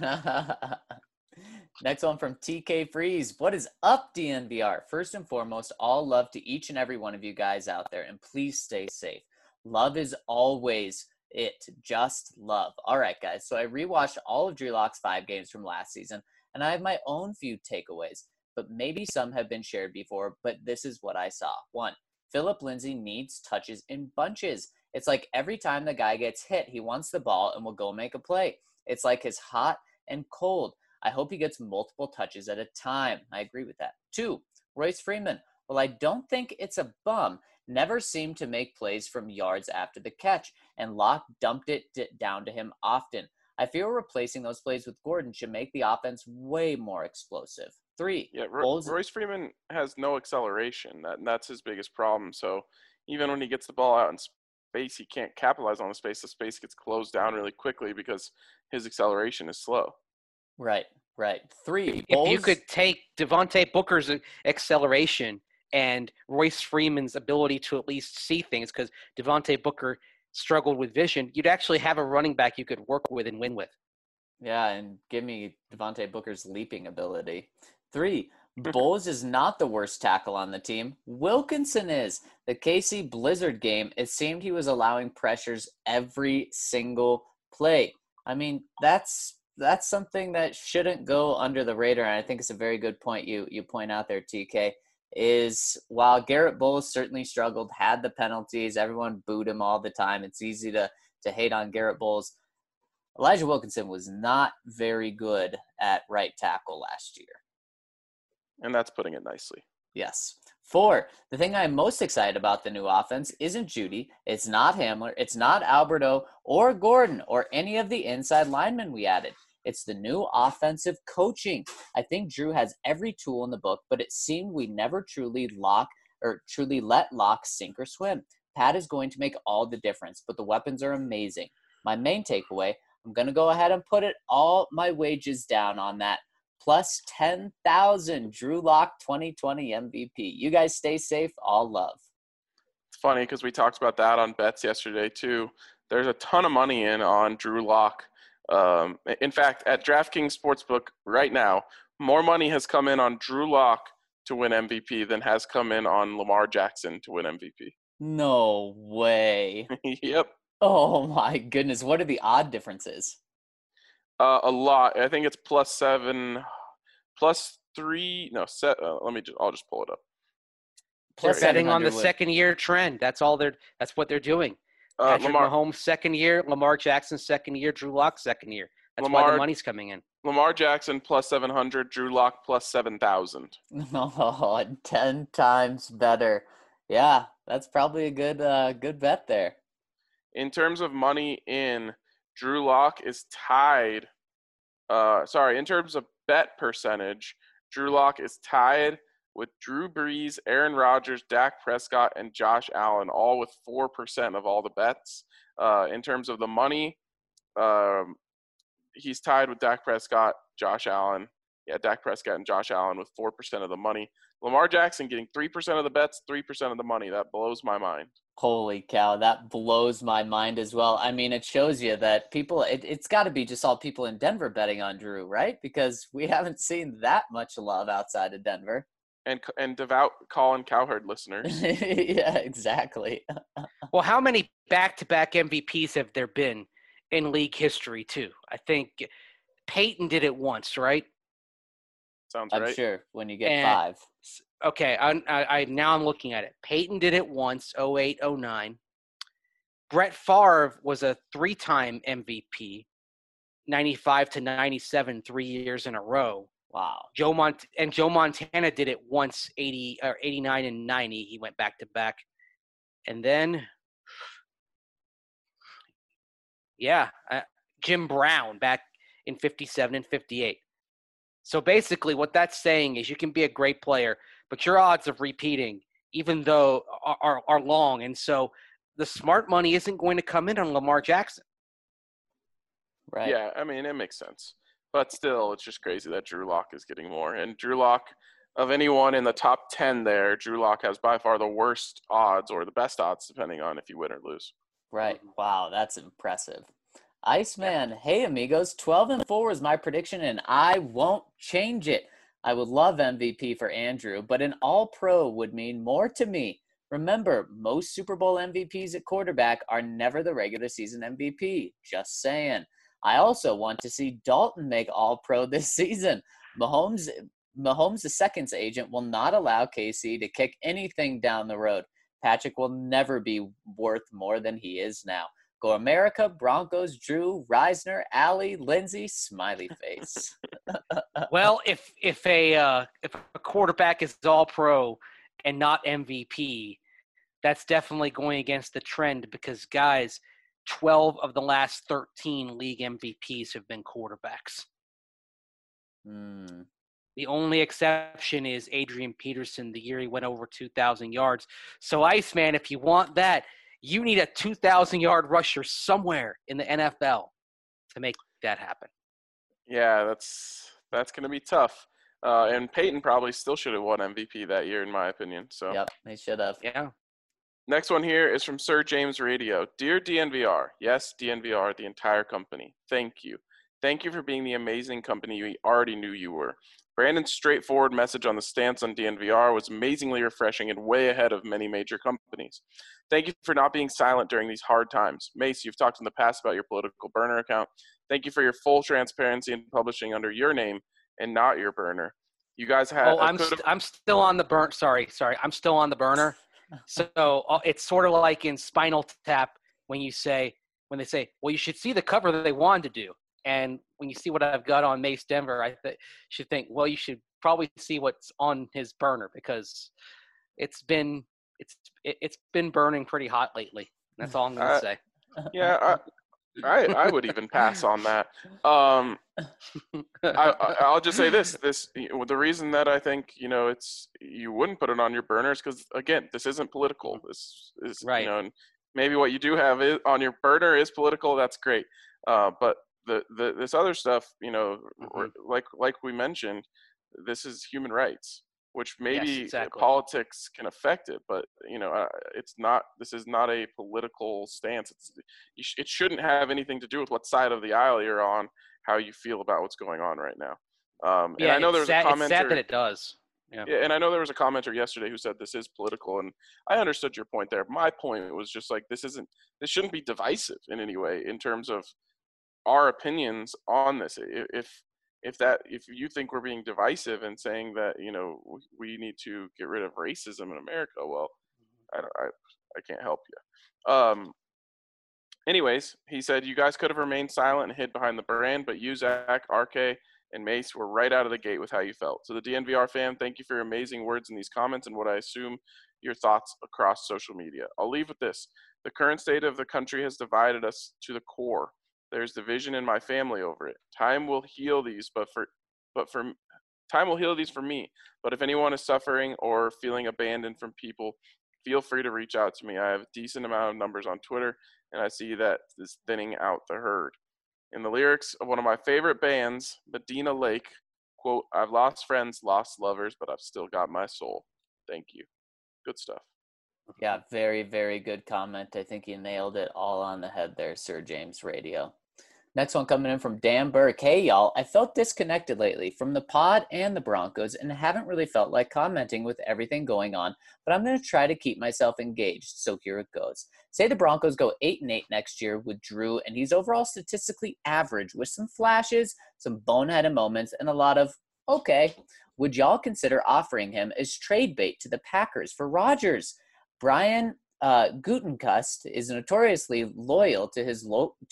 Next one from TK Freeze. What is up, DNVR? First and foremost, all love to each and every one of you guys out there, and please stay safe. Love is always it. Just love. All right, guys. So I rewatched all of Drew Lock's 5 games from last season, and I have my own few takeaways, but maybe some have been shared before, but this is what I saw. 1, Phillip Lindsay needs touches in bunches. It's like every time the guy gets hit, he wants the ball and will go make a play. It's like his hot and cold. I hope he gets multiple touches at a time. I agree with that. 2, Royce Freeman. Well, I don't think it's a bum. Never seemed to make plays from yards after the catch, and Locke dumped it down to him often. I feel replacing those plays with Gordon should make the offense way more explosive. 3, yeah, Royce Freeman has no acceleration. That's his biggest problem. So even when he gets the ball out in space, he can't capitalize on the space. The space gets closed down really quickly because his acceleration is slow. Right. 3, if you could take Devontae Booker's acceleration and Royce Freeman's ability to at least see things, because Devontae Booker struggled with vision, you'd actually have a running back you could work with and win with. Yeah, and give me Devontae Booker's leaping ability. 3, Bowles is not the worst tackle on the team. Wilkinson is. The KC Blizzard game, it seemed he was allowing pressures every single play. I mean, that's something that shouldn't go under the radar, and I think it's a very good point you point out there, TK. is while Garrett Bowles certainly struggled, had the penalties, everyone booed him all the time. It's easy to hate on Garrett Bowles. Elijah Wilkinson was not very good at right tackle last year. And that's putting it nicely. Yes. 4, the thing I'm most excited about the new offense isn't Judy, it's not Hamler, it's not Alberto or Gordon or any of the inside linemen we added. It's the new offensive coaching. I think Drew has every tool in the book, but it seemed we never truly let lock sink or swim. Pat is going to make all the difference, but the weapons are amazing. My main takeaway, I'm going to go ahead and put all my wages down on that. Plus 10,000 Drew Lock 2020 MVP. You guys stay safe. All love. It's funny because we talked about that on bets yesterday too. There's a ton of money in on Drew Lock. In fact, at DraftKings Sportsbook right now, more money has come in on Drew Lock to win MVP than has come in on Lamar Jackson to win MVP. No way. Yep. Oh my goodness. What are the odd differences? A lot. I think it's +7, +3. No, I'll just pull it up. They're betting on the second-year trend. That's what they're doing. Patrick Mahomes second year, Lamar Jackson second year, Drew Lock second year. That's why the money's coming in. Lamar Jackson +700, Drew Lock +7,000. Oh, 10 times better. Yeah, that's probably a good bet there. In terms of money in, Drew Lock is tied. In terms of bet percentage, Drew Lock is tied with Drew Brees, Aaron Rodgers, Dak Prescott, and Josh Allen, all with 4% of all the bets. In terms of the money, he's tied with Dak Prescott, Josh Allen. Yeah, Dak Prescott and Josh Allen with 4% of the money. Lamar Jackson getting 3% of the bets, 3% of the money. That blows my mind. Holy cow, that blows my mind as well. I mean, it shows you that it's got to be just all people in Denver betting on Drew, right? Because we haven't seen that much love outside of Denver. And devout Colin Cowherd listeners. Yeah, exactly. Well, how many back-to-back MVPs have there been in league history, too? I think Peyton did it once, right? Sounds right. I'm sure when you get 5. Okay, now I'm looking at it. Peyton did it once, 08, 09. Brett Favre was a 3-time MVP, 95 to 97, 3 years in a row. Wow. Joe Montana did it once, 89 and 90. He went back to back. And then, Jim Brown back in 57 and 58. So basically what that's saying is you can be a great player, but your odds of repeating, even though are long. And so the smart money isn't going to come in on Lamar Jackson. Right. Yeah, I mean, it makes sense. But still, it's just crazy that Drew Lock is getting more. And Drew Lock, of anyone in the top 10 there, Drew Lock has by far the worst odds or the best odds, depending on if you win or lose. Right. Wow, that's impressive. Iceman, hey amigos, 12-4 is my prediction, and I won't change it. I would love MVP for Andrew, but an all-pro would mean more to me. Remember, most Super Bowl MVPs at quarterback are never the regular season MVP. Just saying. I also want to see Dalton make all-pro this season. Mahomes, the second's agent, will not allow KC to kick anything down the road. Patrick will never be worth more than he is now. Go America, Broncos, Drew, Reisner, Allie, Lindsay, smiley face. Well, if a quarterback is all pro and not MVP, that's definitely going against the trend because, guys, 12 of the last 13 league MVPs have been quarterbacks. The only exception is Adrian Peterson the year he went over 2,000 yards. So, Iceman, if you want that, you need a 2,000-yard rusher somewhere in the NFL to make that happen. Yeah, that's going to be tough. And Peyton probably still should have won MVP that year, in my opinion. So. Yep, they should have. Yeah. Next one here is from Sir James Radio. Dear DNVR, yes, DNVR, the entire company, thank you. Thank you for being the amazing company we already knew you were. Brandon's straightforward message on the stance on DNVR was amazingly refreshing and way ahead of many major companies. Thank you for not being silent during these hard times. Mace, you've talked in the past about your political burner account. Thank you for your full transparency in publishing under your name and not your burner. You guys had. Oh, I'm still on the burn. Sorry. I'm still on the burner. So it's sort of like in Spinal Tap when they say, well, you should see the cover that they wanted to do. And when you see what I've got on Mace Denver, I should think, well, you should probably see what's on his burner, because it's been burning pretty hot lately. That's all I'm going to say. Yeah, I would even pass on that. I'll just say this: the reason that I think you wouldn't put it on your burner is because, again, this isn't political. This is right. And maybe what you do have on your burner is political. That's great. But this other stuff, like we mentioned, this is human rights, which maybe yes, exactly. politics can affect it, but it's not. This is not a political stance. It shouldn't have anything to do with what side of the aisle you're on, how you feel about what's going on right now. And I know there's a commenter. It's sad that it does. Yeah, and I know there was a commenter yesterday who said this is political, and I understood your point there. My point was just like this shouldn't be divisive in any way in terms of our opinions on this. If you think we're being divisive and saying that we need to get rid of racism in America, well, I can't help you. Anyways, he said you guys could have remained silent and hid behind the brand, but you, Zach, RK, and Mace were right out of the gate with how you felt. So the DNVR fan, thank you for your amazing words in these comments and what I assume your thoughts across social media. I'll leave with this: the current state of the country has divided us to the core. There's division in my family over it. Time will heal these, time will heal these for me. But if anyone is suffering or feeling abandoned from people, feel free to reach out to me. I have a decent amount of numbers on Twitter, and I see that is thinning out the herd. In the lyrics of one of my favorite bands, Medina Lake, quote, "I've lost friends, lost lovers, but I've still got my soul. Thank you." Good stuff. Yeah, very, very good comment. I think you nailed it all on the head there, Sir James Radio. Next one coming in from Dan Burke. Hey, y'all. I felt disconnected lately from the pod and the Broncos and haven't really felt like commenting with everything going on, but I'm going to try to keep myself engaged, so here it goes. Say the Broncos go 8-8 next year with Drew, and he's overall statistically average with some flashes, some boneheaded moments, and a lot of, okay. Would y'all consider offering him as trade bait to the Packers for Rodgers? Brian Gutenkust is notoriously loyal to his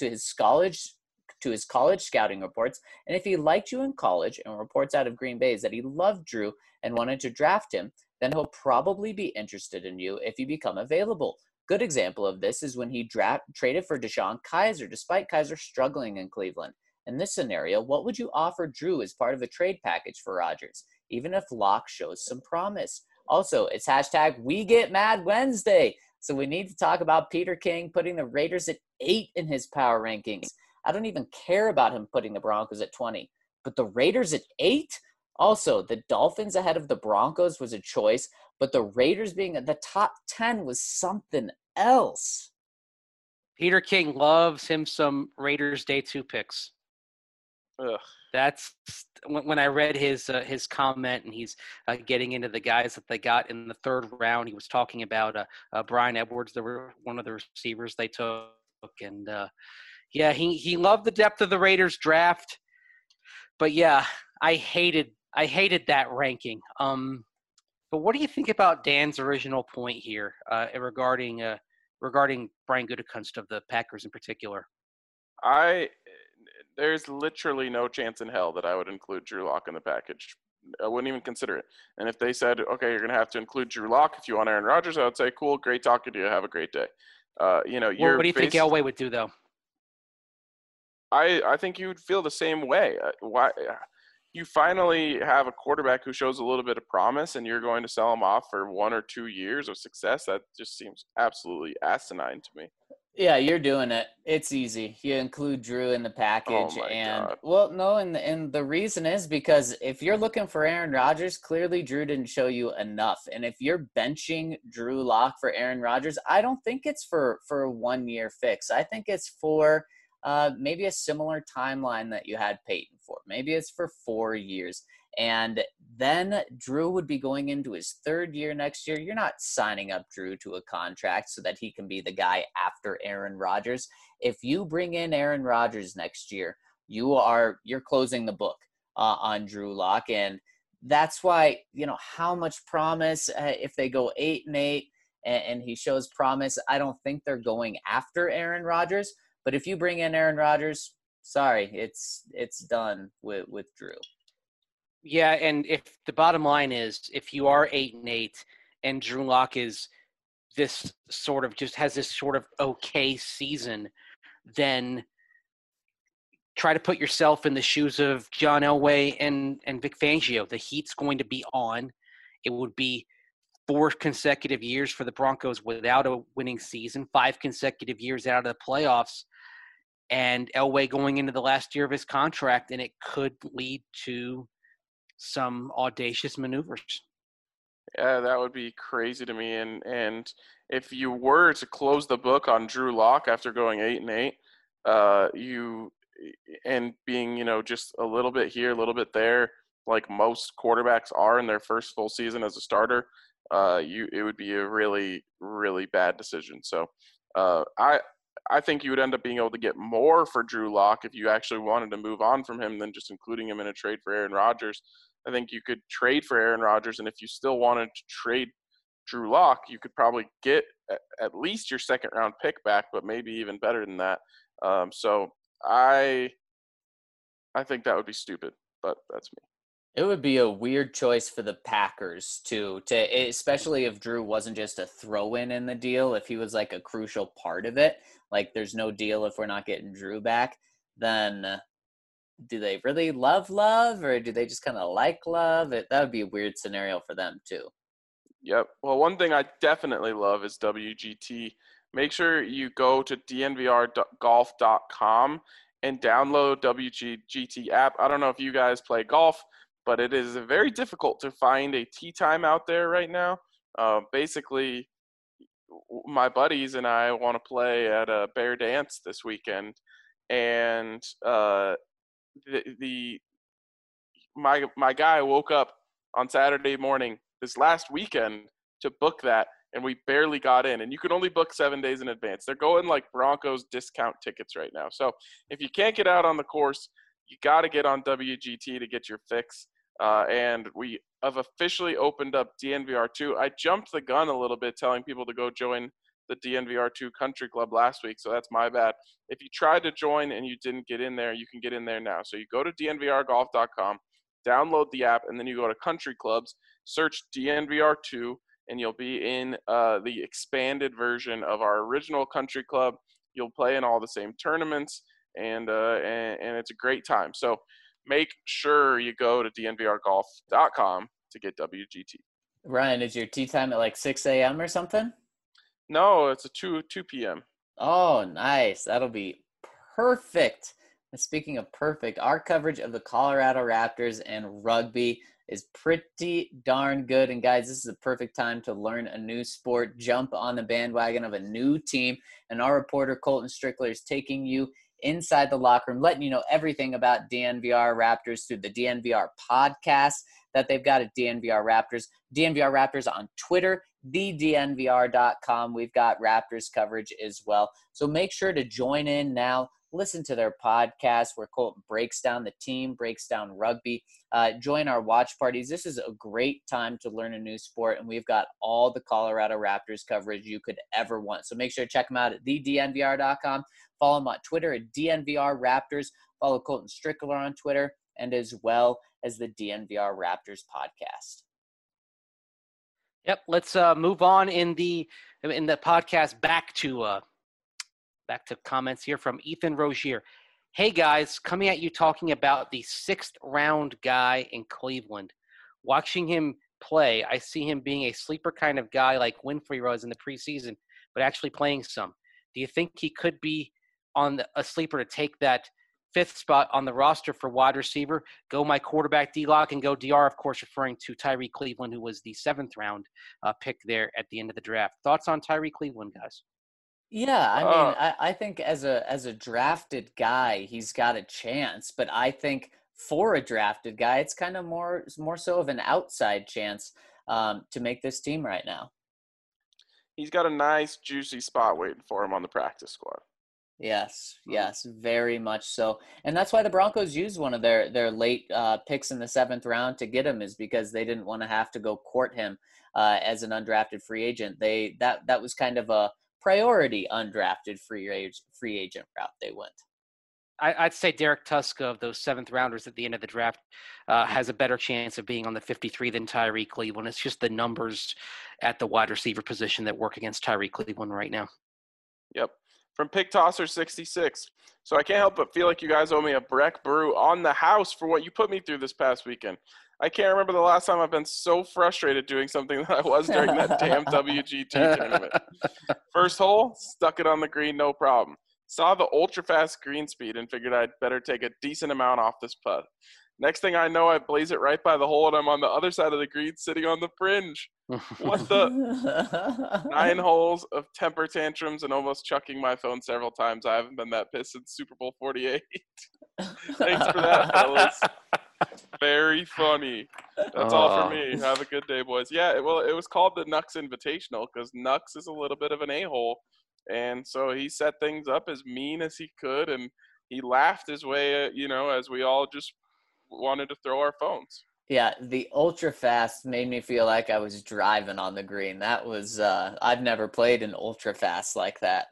college scouting reports, and if he liked you in college and reports out of Green Bay that he loved Drew and wanted to draft him, then he'll probably be interested in you if you become available. Good example of this is when he traded for DeShone Kizer, despite Kizer struggling in Cleveland. In this scenario, what would you offer Drew as part of a trade package for Rodgers, even if Locke shows some promise? Also, it's #WeGetMadWednesday, so we need to talk about Peter King putting the Raiders at 8 in his power rankings. I don't even care about him putting the Broncos at 20, but the Raiders at 8? Also, the Dolphins ahead of the Broncos was a choice, but the Raiders being at the top 10 was something else. Peter King loves him some Raiders Day 2 picks. Ugh. That's when I read his comment, and he's getting into the guys that they got in the third round. He was talking about Brian Edwards, one of the receivers they took, and yeah, he loved the depth of the Raiders draft. But yeah, I hated that ranking. But what do you think about Dan's original point here regarding Brian Gutekunst of the Packers in particular? There's literally no chance in hell that I would include Drew Lock in the package. I wouldn't even consider it. And if they said, okay, you're going to have to include Drew Lock if you want Aaron Rodgers, I would say, cool, great talking to you. Have a great day. What do you think Elway would do, though? I think you would feel the same way. Why? You finally have a quarterback who shows a little bit of promise, and you're going to sell him off for 1 or 2 years of success. That just seems absolutely asinine to me. Yeah, you're doing it. It's easy. You include Drew in the package, God. Well, no, and the reason is because if you're looking for Aaron Rodgers, clearly Drew didn't show you enough. And if you're benching Drew Lock for Aaron Rodgers, I don't think it's for a 1-year fix. I think it's for maybe a similar timeline that you had Peyton for. Maybe it's for 4 years. And then Drew would be going into his 3rd year next year. You're not signing up Drew to a contract so that he can be the guy after Aaron Rodgers. If you bring in Aaron Rodgers next year, you're closing the book on Drew Lock. And that's why, how much promise, if they go 8-8 and he shows promise, I don't think they're going after Aaron Rodgers. But if you bring in Aaron Rodgers, sorry, it's done with Drew. Yeah, and if the bottom line is, if you are 8-8 and Drew Lock is this sort of just has this sort of okay season, then try to put yourself in the shoes of John Elway and Vic Fangio. The heat's going to be on. It would be 4 consecutive years for the Broncos without a winning season, 5 consecutive years out of the playoffs, and Elway going into the last year of his contract, and it could lead to some audacious maneuvers. Yeah, that would be crazy to me. And if you were to close the book on Drew Lock after going 8-8, you and being, just a little bit here, a little bit there, like most quarterbacks are in their first full season as a starter, it would be a really, really bad decision. So I think you would end up being able to get more for Drew Lock if you actually wanted to move on from him than just including him in a trade for Aaron Rodgers. I think you could trade for Aaron Rodgers, and if you still wanted to trade Drew Lock, you could probably get at least your second-round pick back, but maybe even better than that. So I think that would be stupid, but that's me. It would be a weird choice for the Packers to especially if Drew wasn't just a throw-in in the deal, if he was like a crucial part of it. Like, there's no deal if we're not getting Drew back, then do they really love Love, or do they just kind of like Love? That would be a weird scenario for them too. Yep. Well, one thing I definitely love is WGT. Make sure you go to dnvrgolf.com and download WGT app. I don't know if you guys play golf, but it is very difficult to find a tee time out there right now. Basically, my buddies and I want to play at a Bear Dance this weekend, and my guy woke up on Saturday morning this last weekend to book that, and we barely got in. And you can only book 7 days in advance. They're going like Broncos discount tickets right now. So if you can't get out on the course, you got to get on WGT to get your fix. And we have officially opened up DNVR2. I jumped the gun a little bit telling people to go join the DNVR2 Country Club last week, so that's my bad. If you tried to join and you didn't get in there, you can get in there now. So you go to dnvrgolf.com, download the app, and then you go to Country Clubs, search DNVR2, and you'll be in the expanded version of our original Country Club. You'll play in all the same tournaments, and it's a great time. So make sure you go to dnvrgolf.com to get WGT. Ryan, is your tee time at like 6 a.m. or something? No, it's a 2 p.m. Oh, nice. That'll be perfect. And speaking of perfect, our coverage of the Colorado Raptors and rugby is pretty darn good. And guys, this is a perfect time to learn a new sport, jump on the bandwagon of a new team. And our reporter, Colton Strickler, is taking you inside the locker room, letting you know everything about DNVR Raptors through the DNVR podcast that they've got at DNVR Raptors. DNVR Raptors on Twitter, thednvr.com. We've got Raptors coverage as well. So make sure to join in now. Listen to their podcast where Colton breaks down the team, breaks down rugby. Join our watch parties. This is a great time to learn a new sport, and we've got all the Colorado Raptors coverage you could ever want. So make sure to check them out at thednvr.com. Follow them on Twitter at DNVR Raptors. Follow Colton Strickler on Twitter, and as well as the DNVR Raptors podcast. Yep, let's move on in the podcast back to comments here from Ethan Rozier. Hey guys, coming at you talking about the 6th round guy in Cleveland. Watching him play, I see him being a sleeper kind of guy like Winfrey was in the preseason, but actually playing some. Do you think he could be on a sleeper to take that 5th spot on the roster for wide receiver? Go my quarterback D-Lock and go DR, of course, referring to Tyree Cleveland, who was the 7th round pick there at the end of the draft. Thoughts on Tyree Cleveland, guys? Yeah, I mean, I think as a drafted guy, he's got a chance. But I think for a drafted guy, it's kind of more so of an outside chance to make this team right now. He's got a nice, juicy spot waiting for him on the practice squad. Yes, very much so. And that's why the Broncos used one of their late picks in the 7th round to get him, is because they didn't want to have to go court him as an undrafted free agent. That was kind of a priority undrafted free agent route they went. I'd say Derek Tuska of those 7th rounders at the end of the draft has a better chance of being on the 53 than Tyree Cleveland. It's just the numbers at the wide receiver position that work against Tyree Cleveland right now. Yep. From Pig Tosser 66. So I can't help but feel like you guys owe me a Breck Brew on the house for what you put me through this past weekend. I can't remember the last time I've been so frustrated doing something that I was during that damn WGT tournament. First hole, stuck it on the green, no problem. Saw the ultra-fast green speed and figured I'd better take a decent amount off this putt. Next thing I know, I blaze it right by the hole, and I'm on the other side of the green sitting on the fringe. What the? 9 holes of temper tantrums and almost chucking my phone several times. I haven't been that pissed since Super Bowl 48. Thanks for that, fellas. Very funny. That's all for me. Have a good day, boys. Yeah, well, it was called the Nux Invitational because Nux is a little bit of an a-hole. And so he set things up as mean as he could, and he laughed his way, as we all just wanted to throw our phones. Yeah, the ultra fast made me feel like I was driving on the green. That was I've never played an ultra fast like that.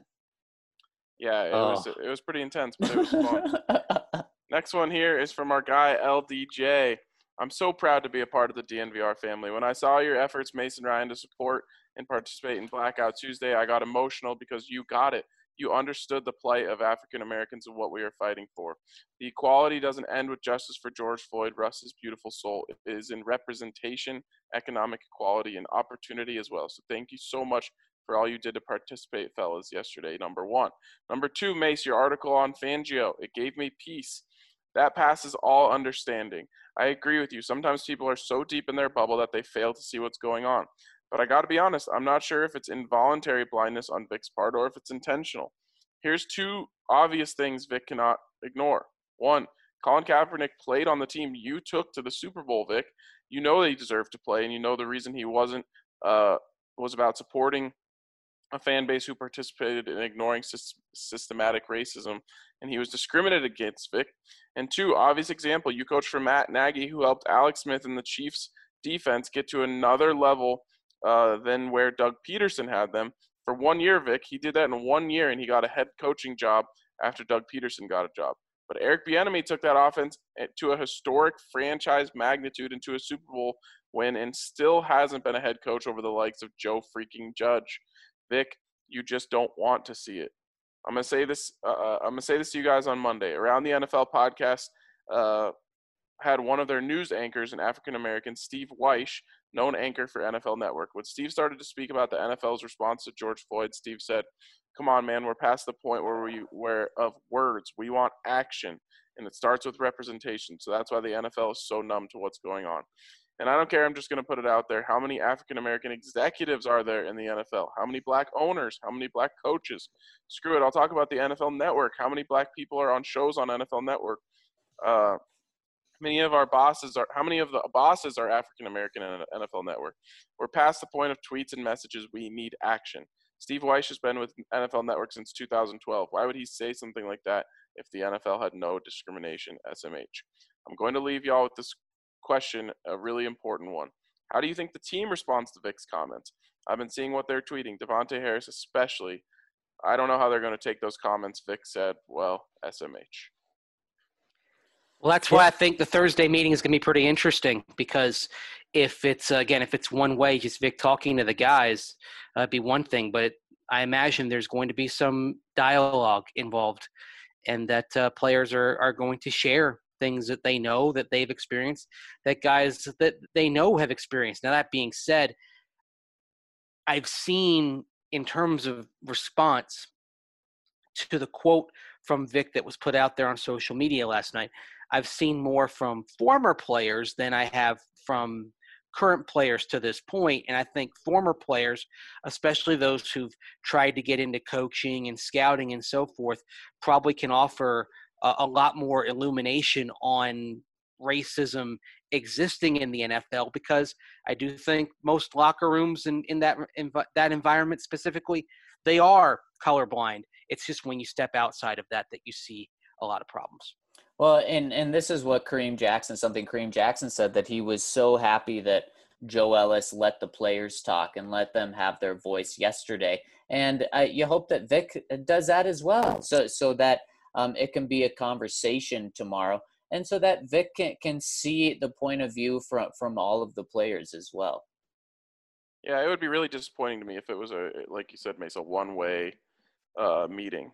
Yeah, it was pretty intense, but it was fun. Next one here is from our guy LDJ. I'm so proud to be a part of the DNVR family. When I saw your efforts, Mason Ryan, to support and participate in Blackout Tuesday, I got emotional because you got it. You understood the plight of African Americans and what we are fighting for. The equality doesn't end with justice for George Floyd, Russ's beautiful soul. It is in representation, economic equality, and opportunity as well. So thank you so much for all you did to participate, fellas, yesterday, number 1. Number 2, Mace, your article on Fangio, it gave me peace. That passes all understanding. I agree with you. Sometimes people are so deep in their bubble that they fail to see what's going on. But I got to be honest, I'm not sure if it's involuntary blindness on Vic's part or if it's intentional. Here's 2 obvious things Vic cannot ignore. 1, Colin Kaepernick played on the team you took to the Super Bowl, Vic. You know that he deserved to play, and you know the reason he wasn't was about supporting a fan base who participated in ignoring systematic racism, and he was discriminated against, Vic. And 2, obvious example, you coached for Matt Nagy, who helped Alex Smith and the Chiefs defense get to another level than where Doug Peterson had them. For 1 year, Vic, he did that in 1 year, and he got a head coaching job after Doug Peterson got a job. But Eric Bieniemy took that offense to a historic franchise magnitude into a Super Bowl win and still hasn't been a head coach over the likes of Joe freaking Judge. Vic, you just don't want to see it. I'm gonna say this to you guys on Monday. Around the NFL podcast had one of their news anchors, an African American, Steve Weish, known anchor for NFL Network. When Steve started to speak about the NFL's response to George Floyd, Steve said, "Come on, man, we're past the point where of words. We want action, and it starts with representation. So that's why the NFL is so numb to what's going on." And I don't care. I'm just going to put it out there. How many African-American executives are there in the NFL? How many black owners? How many black coaches? Screw it. I'll talk about the NFL Network. How many black people are on shows on NFL Network? How many of the bosses are African-American in NFL Network? We're past the point of tweets and messages. We need action. Steve Weish has been with NFL Network since 2012. Why would he say something like that if the NFL had no discrimination, SMH? I'm going to leave y'all with this question, a really important one. How do you think the team responds to Vic's comments? I've been seeing what they're tweeting, Devontae Harris especially. I don't know how they're going to take those comments. Vic said, well, SMH. Well, that's why I think the Thursday meeting is going to be pretty interesting, because if it's one way, just Vic talking to the guys, it'd be one thing. But I imagine there's going to be some dialogue involved, and that players are going to share things that they know, that they've experienced, that guys that they know have experienced. Now, that being said, I've seen in terms of response to the quote from Vic that was put out there on social media last night, I've seen more from former players than I have from current players to this point. And I think former players, especially those who've tried to get into coaching and scouting and so forth, probably can offer a lot more illumination on racism existing in the NFL, because I do think most locker rooms in that environment specifically, they are colorblind. It's just when you step outside of that you see a lot of problems. Well, and this is what Kareem Jackson said, that he was so happy that Joe Ellis let the players talk and let them have their voice yesterday. And you hope that Vic does that as well, so that it can be a conversation tomorrow, and so that Vic can see the point of view from all of the players as well. Yeah, it would be really disappointing to me if it was like you said, Mace, a one-way meeting.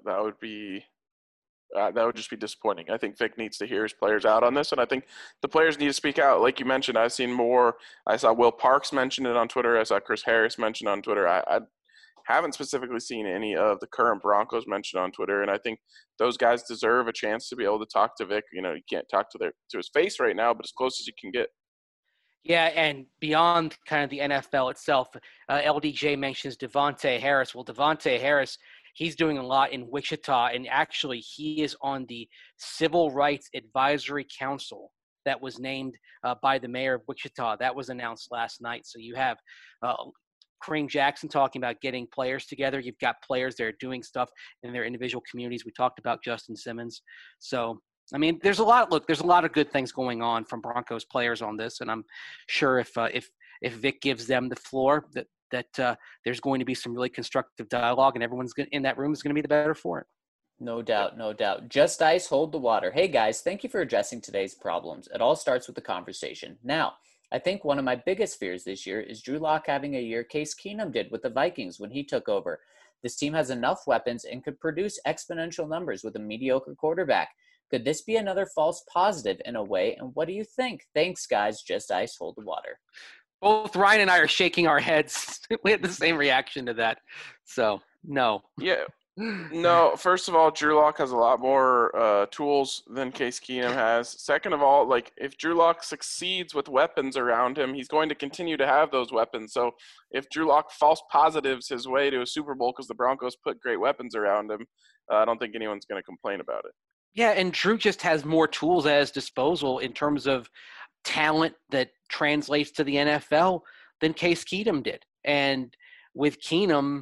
That would just be disappointing. I think Vic needs to hear his players out on this, and I think the players need to speak out. Like you mentioned, I've seen more. I saw Will Parks mention it on Twitter. I saw Chris Harris mention on Twitter. I haven't specifically seen any of the current Broncos mentioned on Twitter, and I think those guys deserve a chance to be able to talk to Vic. You can't talk to his face right now, but as close as you can get. Yeah, and beyond kind of the NFL itself, LDJ mentions Devontae Harris. Well, Devontae Harris, he's doing a lot in Wichita, and actually he is on the Civil Rights Advisory Council that was named by the mayor of Wichita. That was announced last night. So you have Kareem Jackson talking about getting players together. You've got players that are doing stuff in their individual communities. We talked about Justin Simmons. So I mean, there's a lot of good things going on from Broncos players on this, and I'm sure if Vic gives them the floor, that there's going to be some really constructive dialogue, and everyone's in that room is going to be the better for it. No doubt, no doubt. Just ice, hold the water. Hey guys, thank you for addressing today's problems. It all starts with the conversation. Now, I think one of my biggest fears this year is Drew Lock having a year Case Keenum did with the Vikings when he took over. This team has enough weapons and could produce exponential numbers with a mediocre quarterback. Could this be another false positive in a way? And what do you think? Thanks, guys. Just ice, hold the water. Both Ryan and I are shaking our heads. We had the same reaction to that. So, no. Yeah. No, first of all, Drew Lock has a lot more tools than Case Keenum has. Second of all, like if Drew Lock succeeds with weapons around him, he's going to continue to have those weapons. So if Drew Lock false positives his way to a Super Bowl because the Broncos put great weapons around him, I don't think anyone's going to complain about it. Yeah, and Drew just has more tools at his disposal in terms of talent that translates to the NFL than Case Keenum did. And with Keenum,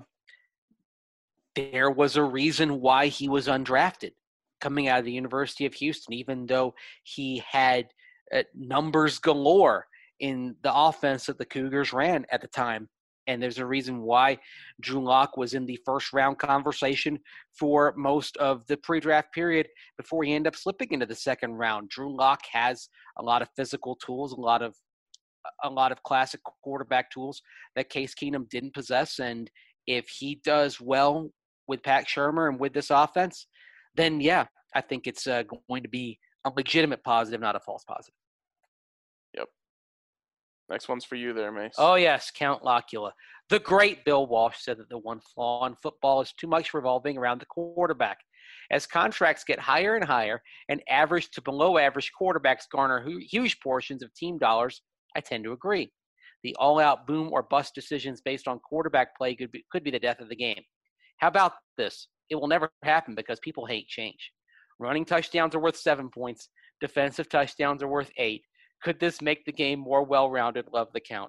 there was a reason why he was undrafted coming out of the University of Houston, even though he had numbers galore in the offense that the Cougars ran at the time. And there's a reason why Drew Lock was in the first-round conversation for most of the pre-draft period before he ended up slipping into the second round. Drew Lock has a lot of physical tools, a lot of classic quarterback tools that Case Keenum didn't possess. And if he does well with Pat Shurmur and with this offense, then, yeah, I think it's going to be a legitimate positive, not a false positive. Yep. Next one's for you there, Mace. Oh, yes, Count Locula. The great Bill Walsh said that the one flaw in football is too much revolving around the quarterback. As contracts get higher and higher and average to below average quarterbacks garner huge portions of team dollars, I tend to agree. The all-out boom or bust decisions based on quarterback play could be the death of the game. How about this? It will never happen because people hate change. Running touchdowns are worth 7 points. Defensive touchdowns are worth 8. Could this make the game more well-rounded? Love the count.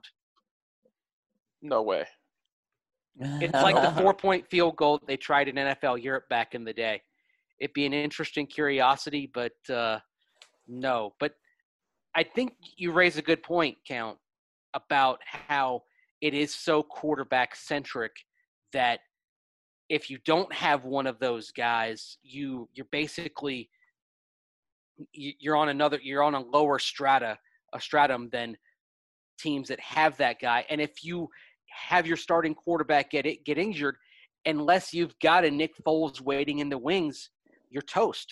No way. It's like the 4-point field goal they tried in NFL Europe back in the day. It'd be an interesting curiosity, but no. But I think you raise a good point, Count, about how it is so quarterback-centric that if you don't have one of those guys, you're basically you're on a lower stratum than teams that have that guy. And if you have your starting quarterback get injured, unless you've got a Nick Foles waiting in the wings, you're toast.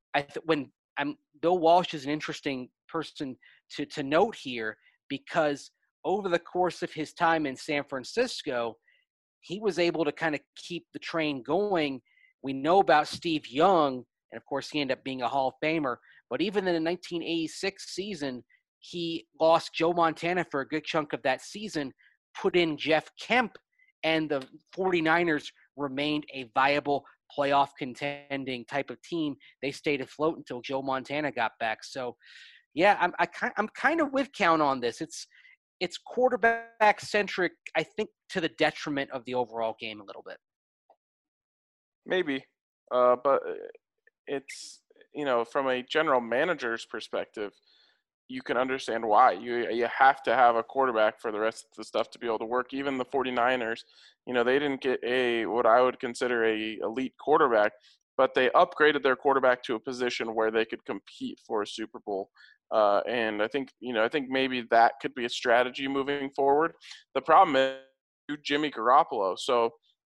Bill Walsh is an interesting person to note here because over the course of his time in San Francisco, he was able to kind of keep the train going. We know about Steve Young, and of course he ended up being a Hall of Famer, but even in the 1986 season, he lost Joe Montana for a good chunk of that season, put in Jeff Kemp, and the 49ers remained a viable playoff contending type of team. They stayed afloat until Joe Montana got back. So, yeah, I'm kind of with Count on this. It's quarterback centric, I think, to the detriment of the overall game a little bit. Maybe, but it's from a general manager's perspective, you can understand why. You have to have a quarterback for the rest of the stuff to be able to work. Even the 49ers, they didn't get what I would consider a elite quarterback, but they upgraded their quarterback to a position where they could compete for a Super Bowl. And I think maybe that could be a strategy moving forward. The problem is Jimmy Garoppolo. So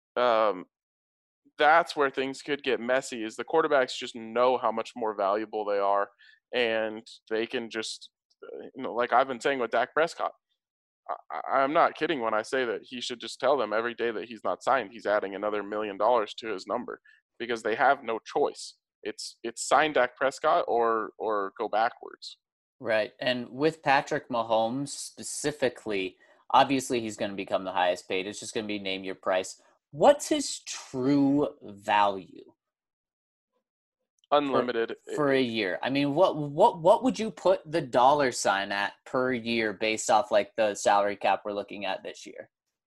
that's where things could get messy. Is the quarterbacks just know how much more valuable they are, and they can just, like I've been saying with Dak Prescott. I'm not kidding when I say that he should just tell them every day that he's not signed, he's adding another $1 million to his number, because they have no choice. It's sign Dak Prescott or go backwards. Right. And with Patrick Mahomes specifically, obviously he's going to become the highest paid. It's just going to be name your price. What's his true value Unlimited for a year? I mean, what would you put the dollar sign at per year based off like the salary cap we're looking at this year?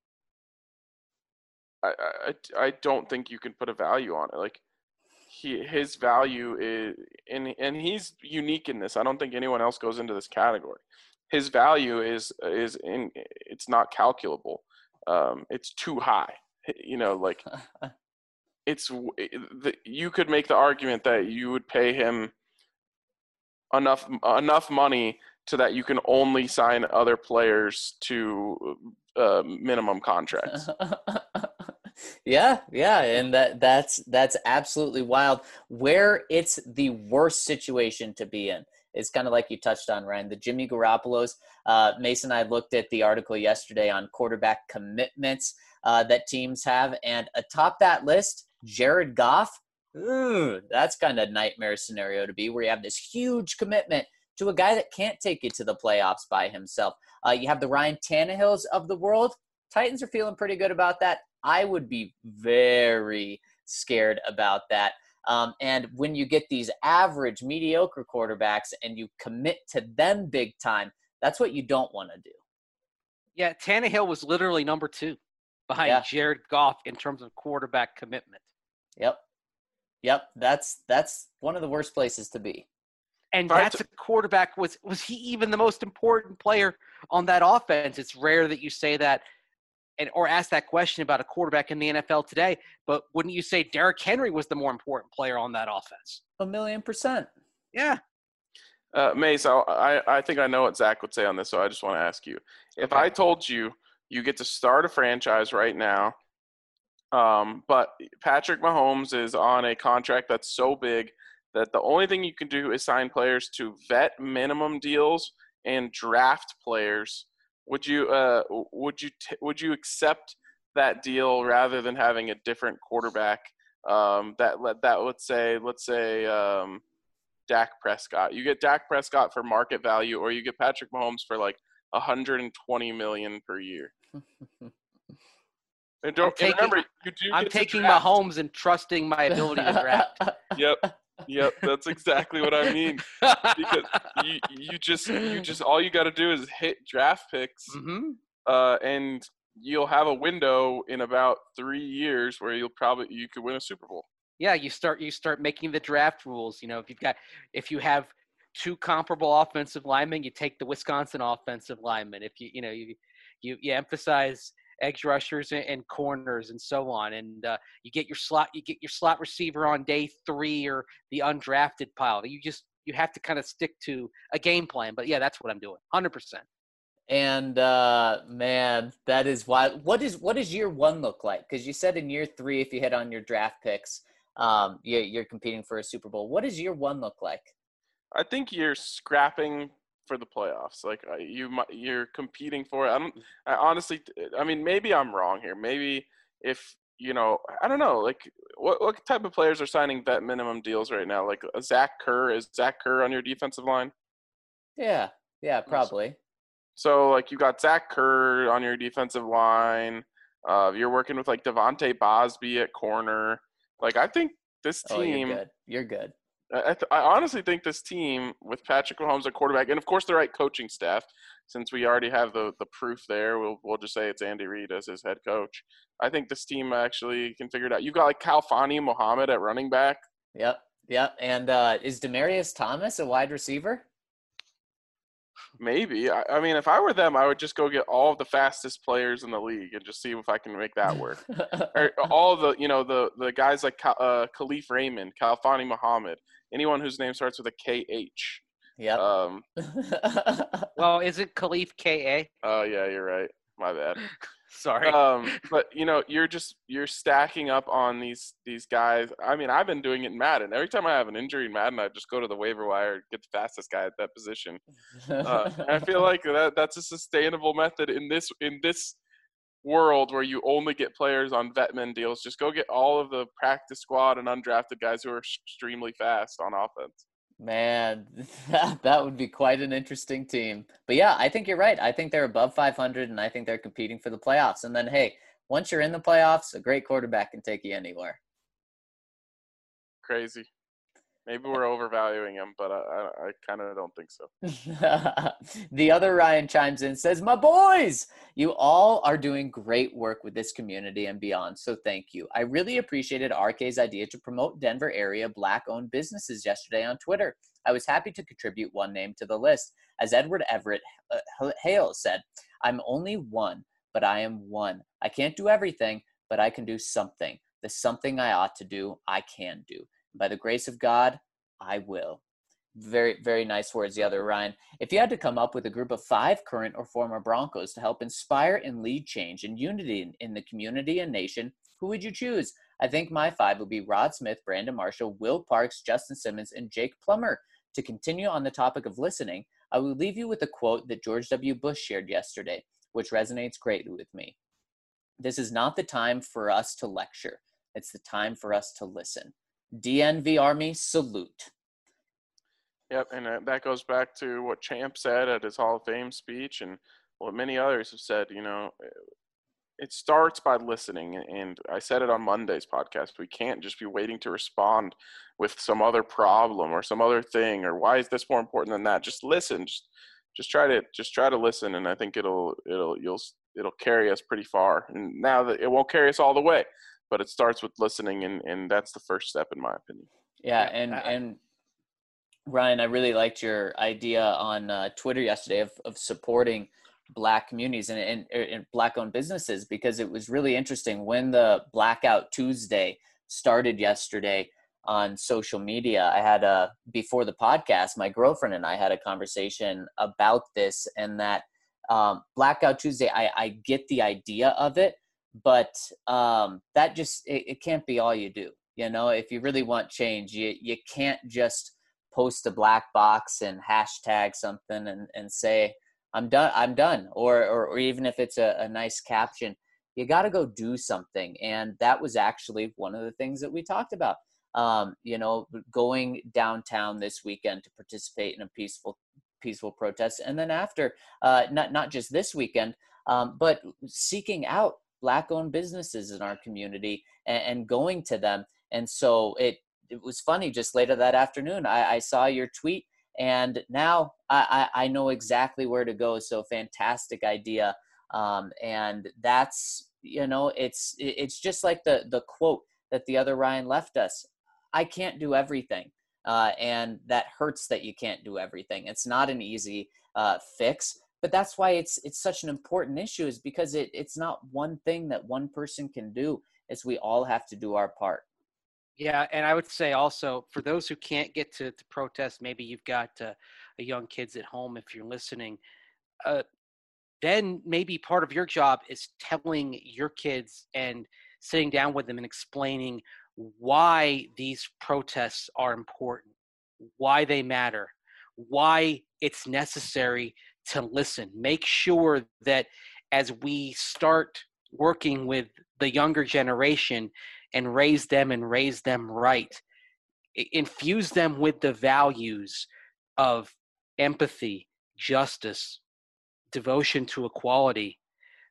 I don't think you can put a value on it. Like his value is, and he's unique in this. I don't think anyone else goes into this category. His value is it's not calculable. It's too high. Like you could make the argument that you would pay him enough money so that you can only sign other players to minimum contracts. Yeah, and that's absolutely wild. Where it's the worst situation to be in. It's kind of like you touched on, Ryan, the Jimmy Garoppolos. Mason and I looked at the article yesterday on quarterback commitments that teams have, and atop that list, Jared Goff. That's kind of a nightmare scenario to be, where you have this huge commitment to a guy that can't take you to the playoffs by himself. You have the Ryan Tannehills of the world. Titans are feeling pretty good about that. I would be very scared about that. And when you get these average, mediocre quarterbacks and you commit to them big time, that's what you don't want to do. Yeah, Tannehill was literally number 2 behind Jared Goff in terms of quarterback commitment. Yep. That's one of the worst places to be. And that's a quarterback. Was he even the most important player on that offense? It's rare that you say that or ask that question about a quarterback in the NFL today, but wouldn't you say Derrick Henry was the more important player on that offense? 1,000,000%. Yeah. Mace, I think I know what Zach would say on this, so I just want to ask you. If I told you get to start a franchise right now, but Patrick Mahomes is on a contract that's so big that the only thing you can do is sign players to vet minimum deals and draft players, would you accept that deal rather than having a different quarterback that let's say Dak Prescott? You get Dak Prescott for market value, or you get Patrick Mahomes for like $120 million per year. And I'm taking Mahomes and trusting my ability to draft. Yep, that's exactly what I mean. Because you just all you got to do is hit draft picks, and you'll have a window in about 3 years where you could win a Super Bowl. Yeah, you start making the draft rules. If you have 2 comparable offensive linemen, you take the Wisconsin offensive lineman. If you emphasize edge rushers and corners and so on, and you get your slot receiver on day 3 or the undrafted pile. You have to kind of stick to a game plan. But yeah, that's what I'm doing, 100%. And man, that is wild. What does year 1 look like? Because you said in year 3, if you hit on your draft picks, you're competing for a Super Bowl. What does year 1 look like? I think you're scrapping for the playoffs. Like you're competing for it. Honestly, maybe I'm wrong here. Maybe if I don't know. Like what type of players are signing vet minimum deals right now? Like Zach Kerr. Is Zach Kerr on your defensive line? Yeah, probably. So like you got Zach Kerr on your defensive line. You're working with like Devontae Bosby at corner. Like I think this team. You're good. I honestly think this team with Patrick Mahomes at quarterback, and of course the right coaching staff, since we already have the proof there, we'll just say it's Andy Reid as his head coach. I think this team actually can figure it out. You've got like Khalfani Muhammad at running back. Yep. And is Demaryius Thomas a wide receiver? Maybe. I mean, if I were them, I would just go get all of the fastest players in the league and just see if I can make that work. Or all of the guys like Khalif Raymond, Khalfani Muhammad, anyone whose name starts with a KH. Yep. Well, is it Khalif K.A.? Oh, yeah, you're right. My bad. Sorry. But you're stacking up on these guys. I mean, I've been doing it in Madden. Every time I have an injury in Madden, I just go to the waiver wire and get the fastest guy at that position. And I feel like that's a sustainable method in this world where you only get players on vetmin deals. Just go get all of the practice squad and undrafted guys who are extremely fast on offense. Man, that would be quite an interesting team. But yeah, I think you're right. I think they're above 500, and I think they're competing for the playoffs. And then, hey, once you're in the playoffs, a great quarterback can take you anywhere. Crazy. Maybe we're overvaluing him, but I kind of don't think so. The other Ryan chimes in, says, my boys, you all are doing great work with this community and beyond, so thank you. I really appreciated RK's idea to promote Denver area Black-owned businesses yesterday on Twitter. I was happy to contribute one name to the list. As Edward Everett Hale said, I'm only one, but I am one. I can't do everything, but I can do something. The something I ought to do, I can do. By the grace of God, I will. Very, very nice words, the other Ryan. If you had to come up with a group of 5 current or former Broncos to help inspire and lead change and unity in the community and nation, who would you choose? I think my 5 would be Rod Smith, Brandon Marshall, Will Parks, Justin Simmons, and Jake Plummer. To continue on the topic of listening, I will leave you with a quote that George W. Bush shared yesterday, which resonates greatly with me. This is not the time for us to lecture. It's the time for us to listen. DNV Army, salute. Yep, and that goes back to what Champ said at his Hall of Fame speech and what many others have said. It starts by listening, and I said it on Monday's podcast. We can't just be waiting to respond with some other problem or some other thing, or why is this more important than that? Just listen. Just try to listen, and I think it'll carry us pretty far. And now that it won't carry us all the way, but it starts with listening, and that's the first step, in my opinion. Yeah, and Ryan, I really liked your idea on Twitter yesterday of supporting Black communities and Black-owned businesses, because it was really interesting when the Blackout Tuesday started yesterday on social media. I had before the podcast, my girlfriend and I had a conversation about this, and that Blackout Tuesday, I get the idea of it, but that just it can't be all you do. If you really want change, you can't just post a black box and hashtag something and say I'm done, or even if it's a nice caption, you got to go do something. And that was actually one of the things that we talked about. Going downtown this weekend to participate in a peaceful protest, and then after, not just this weekend, but seeking out Black-owned businesses in our community and going to them. And so it was funny, just later that afternoon, I saw your tweet, and now I know exactly where to go. So fantastic idea. And that's, it's just like the quote that the other Ryan left us. I can't do everything. And that hurts that you can't do everything. It's not an easy fix. But that's why it's such an important issue, is because it's not one thing that one person can do. It's we all have to do our part. Yeah, and I would say also, for those who can't get to protest, maybe you've got young kids at home, if you're listening, then maybe part of your job is telling your kids and sitting down with them and explaining why these protests are important, why they matter, why it's necessary to listen. Make sure that as we start working with the younger generation and raise them right, infuse them with the values of empathy, justice, devotion to equality,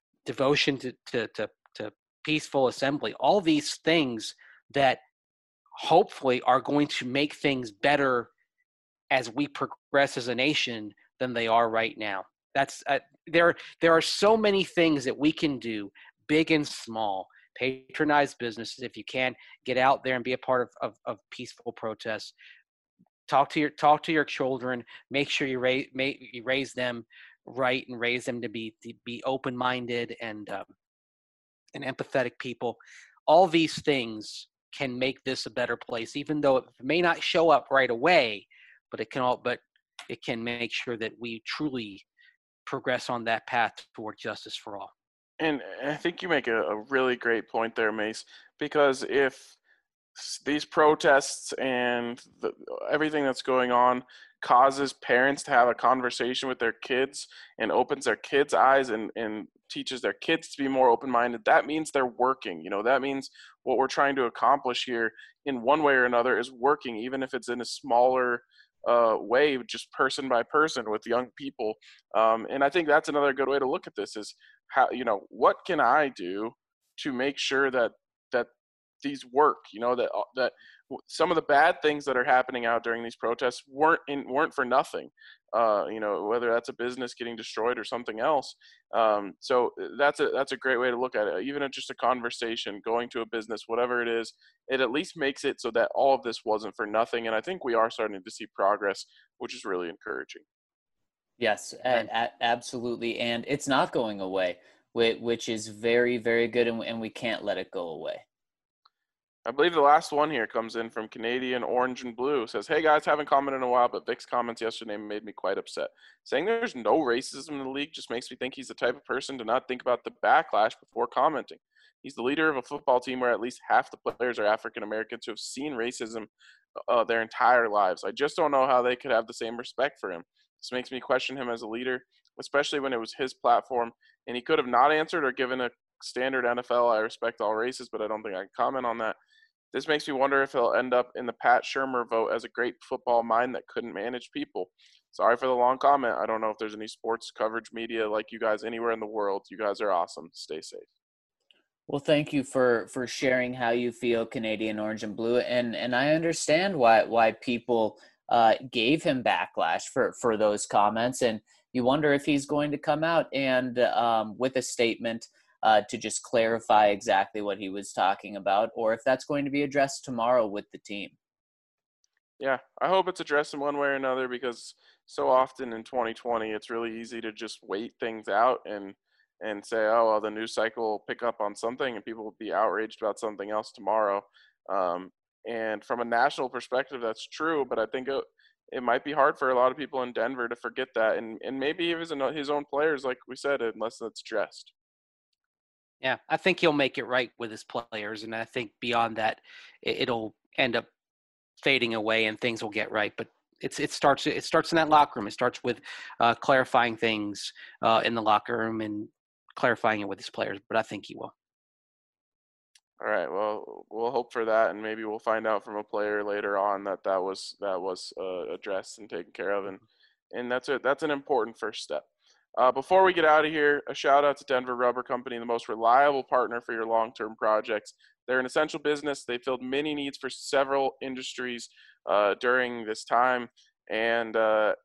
devotion to peaceful assembly, all these things that hopefully are going to make things better as we progress as a nation than they are right now. That's there are so many things that we can do, big and small. Patronize businesses if you can. Get out there and be a part of peaceful protests. Talk to your children. Make sure you raise them right and raise them to be open-minded and empathetic people. All these things can make this a better place, even though it may not show up right away, but it can make sure that we truly progress on that path toward justice for all. And I think you make a really great point there, Mace, because if these protests and everything that's going on causes parents to have a conversation with their kids and opens their kids' eyes and teaches their kids to be more open-minded, that means they're working. That means what we're trying to accomplish here in one way or another is working, even if it's in a smaller way, just person by person with young people. And I think that's another good way to look at this is how, what can I do to make sure that these work, that some of the bad things that are happening out during these protests weren't for nothing, whether that's a business getting destroyed or something else. So that's a great way to look at it. Even if just a conversation, going to a business, whatever it is, it at least makes it so that all of this wasn't for nothing. And I think we are starting to see progress, which is really encouraging. Yes, absolutely. And it's not going away, which is very, very good. And we can't let it go away. I believe the last one here comes in from Canadian Orange and Blue. It says, hey guys, haven't commented in a while, but Vic's comments yesterday made me quite upset. Saying there's no racism in the league just makes me think he's the type of person to not think about the backlash before commenting. He's the leader of a football team where at least half the players are African Americans who have seen racism their entire lives. I just don't know how they could have the same respect for him. This makes me question him as a leader, especially when it was his platform, and he could have not answered or given a standard NFL, I respect all races, but I don't think I can comment on that. This makes me wonder if he'll end up in the Pat Shurmur vote as a great football mind that couldn't manage people. Sorry for the long comment. I don't know if there's any sports coverage media like you guys anywhere in the world. You guys are awesome. Stay safe. Well, thank you for sharing how you feel, Canadian Orange and Blue. And I understand why people gave him backlash for those comments. And you wonder if he's going to come out and with a statement to just clarify exactly what he was talking about, or if that's going to be addressed tomorrow with the team. Yeah, I hope it's addressed in one way or another, because so often in 2020, it's really easy to just wait things out and say, oh, well, the news cycle will pick up on something and people will be outraged about something else tomorrow. And from a national perspective, that's true, but I think it might be hard for a lot of people in Denver to forget that, and maybe even his own players, like we said, unless that's addressed. Yeah, I think he'll make it right with his players, and I think beyond that, it'll end up fading away and things will get right. But it starts in that locker room. It starts with clarifying things in the locker room and clarifying it with his players. But I think he will. All right. Well, we'll hope for that, and maybe we'll find out from a player later on that was addressed and taken care of, and that's it. That's an important first step. Before we get out of here, a shout out to Denver Rubber Company, the most reliable partner for your long-term projects. They're an essential business. They filled many needs for several industries during this time, and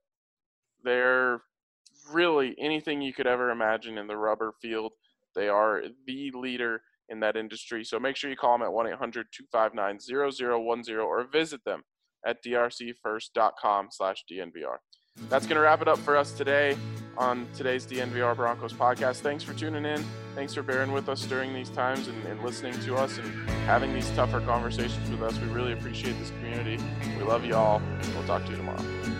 they're really anything you could ever imagine in the rubber field. They are the leader in that industry. So make sure you call them at 1-800-259-0010 or visit them at drcfirst.com/DNVR. That's going to wrap it up for us today on today's DNVR Broncos podcast. Thanks for tuning in. Thanks for bearing with us during these times and listening to us and having these tougher conversations with us. We really appreciate this community. We love you all. We'll talk to you tomorrow.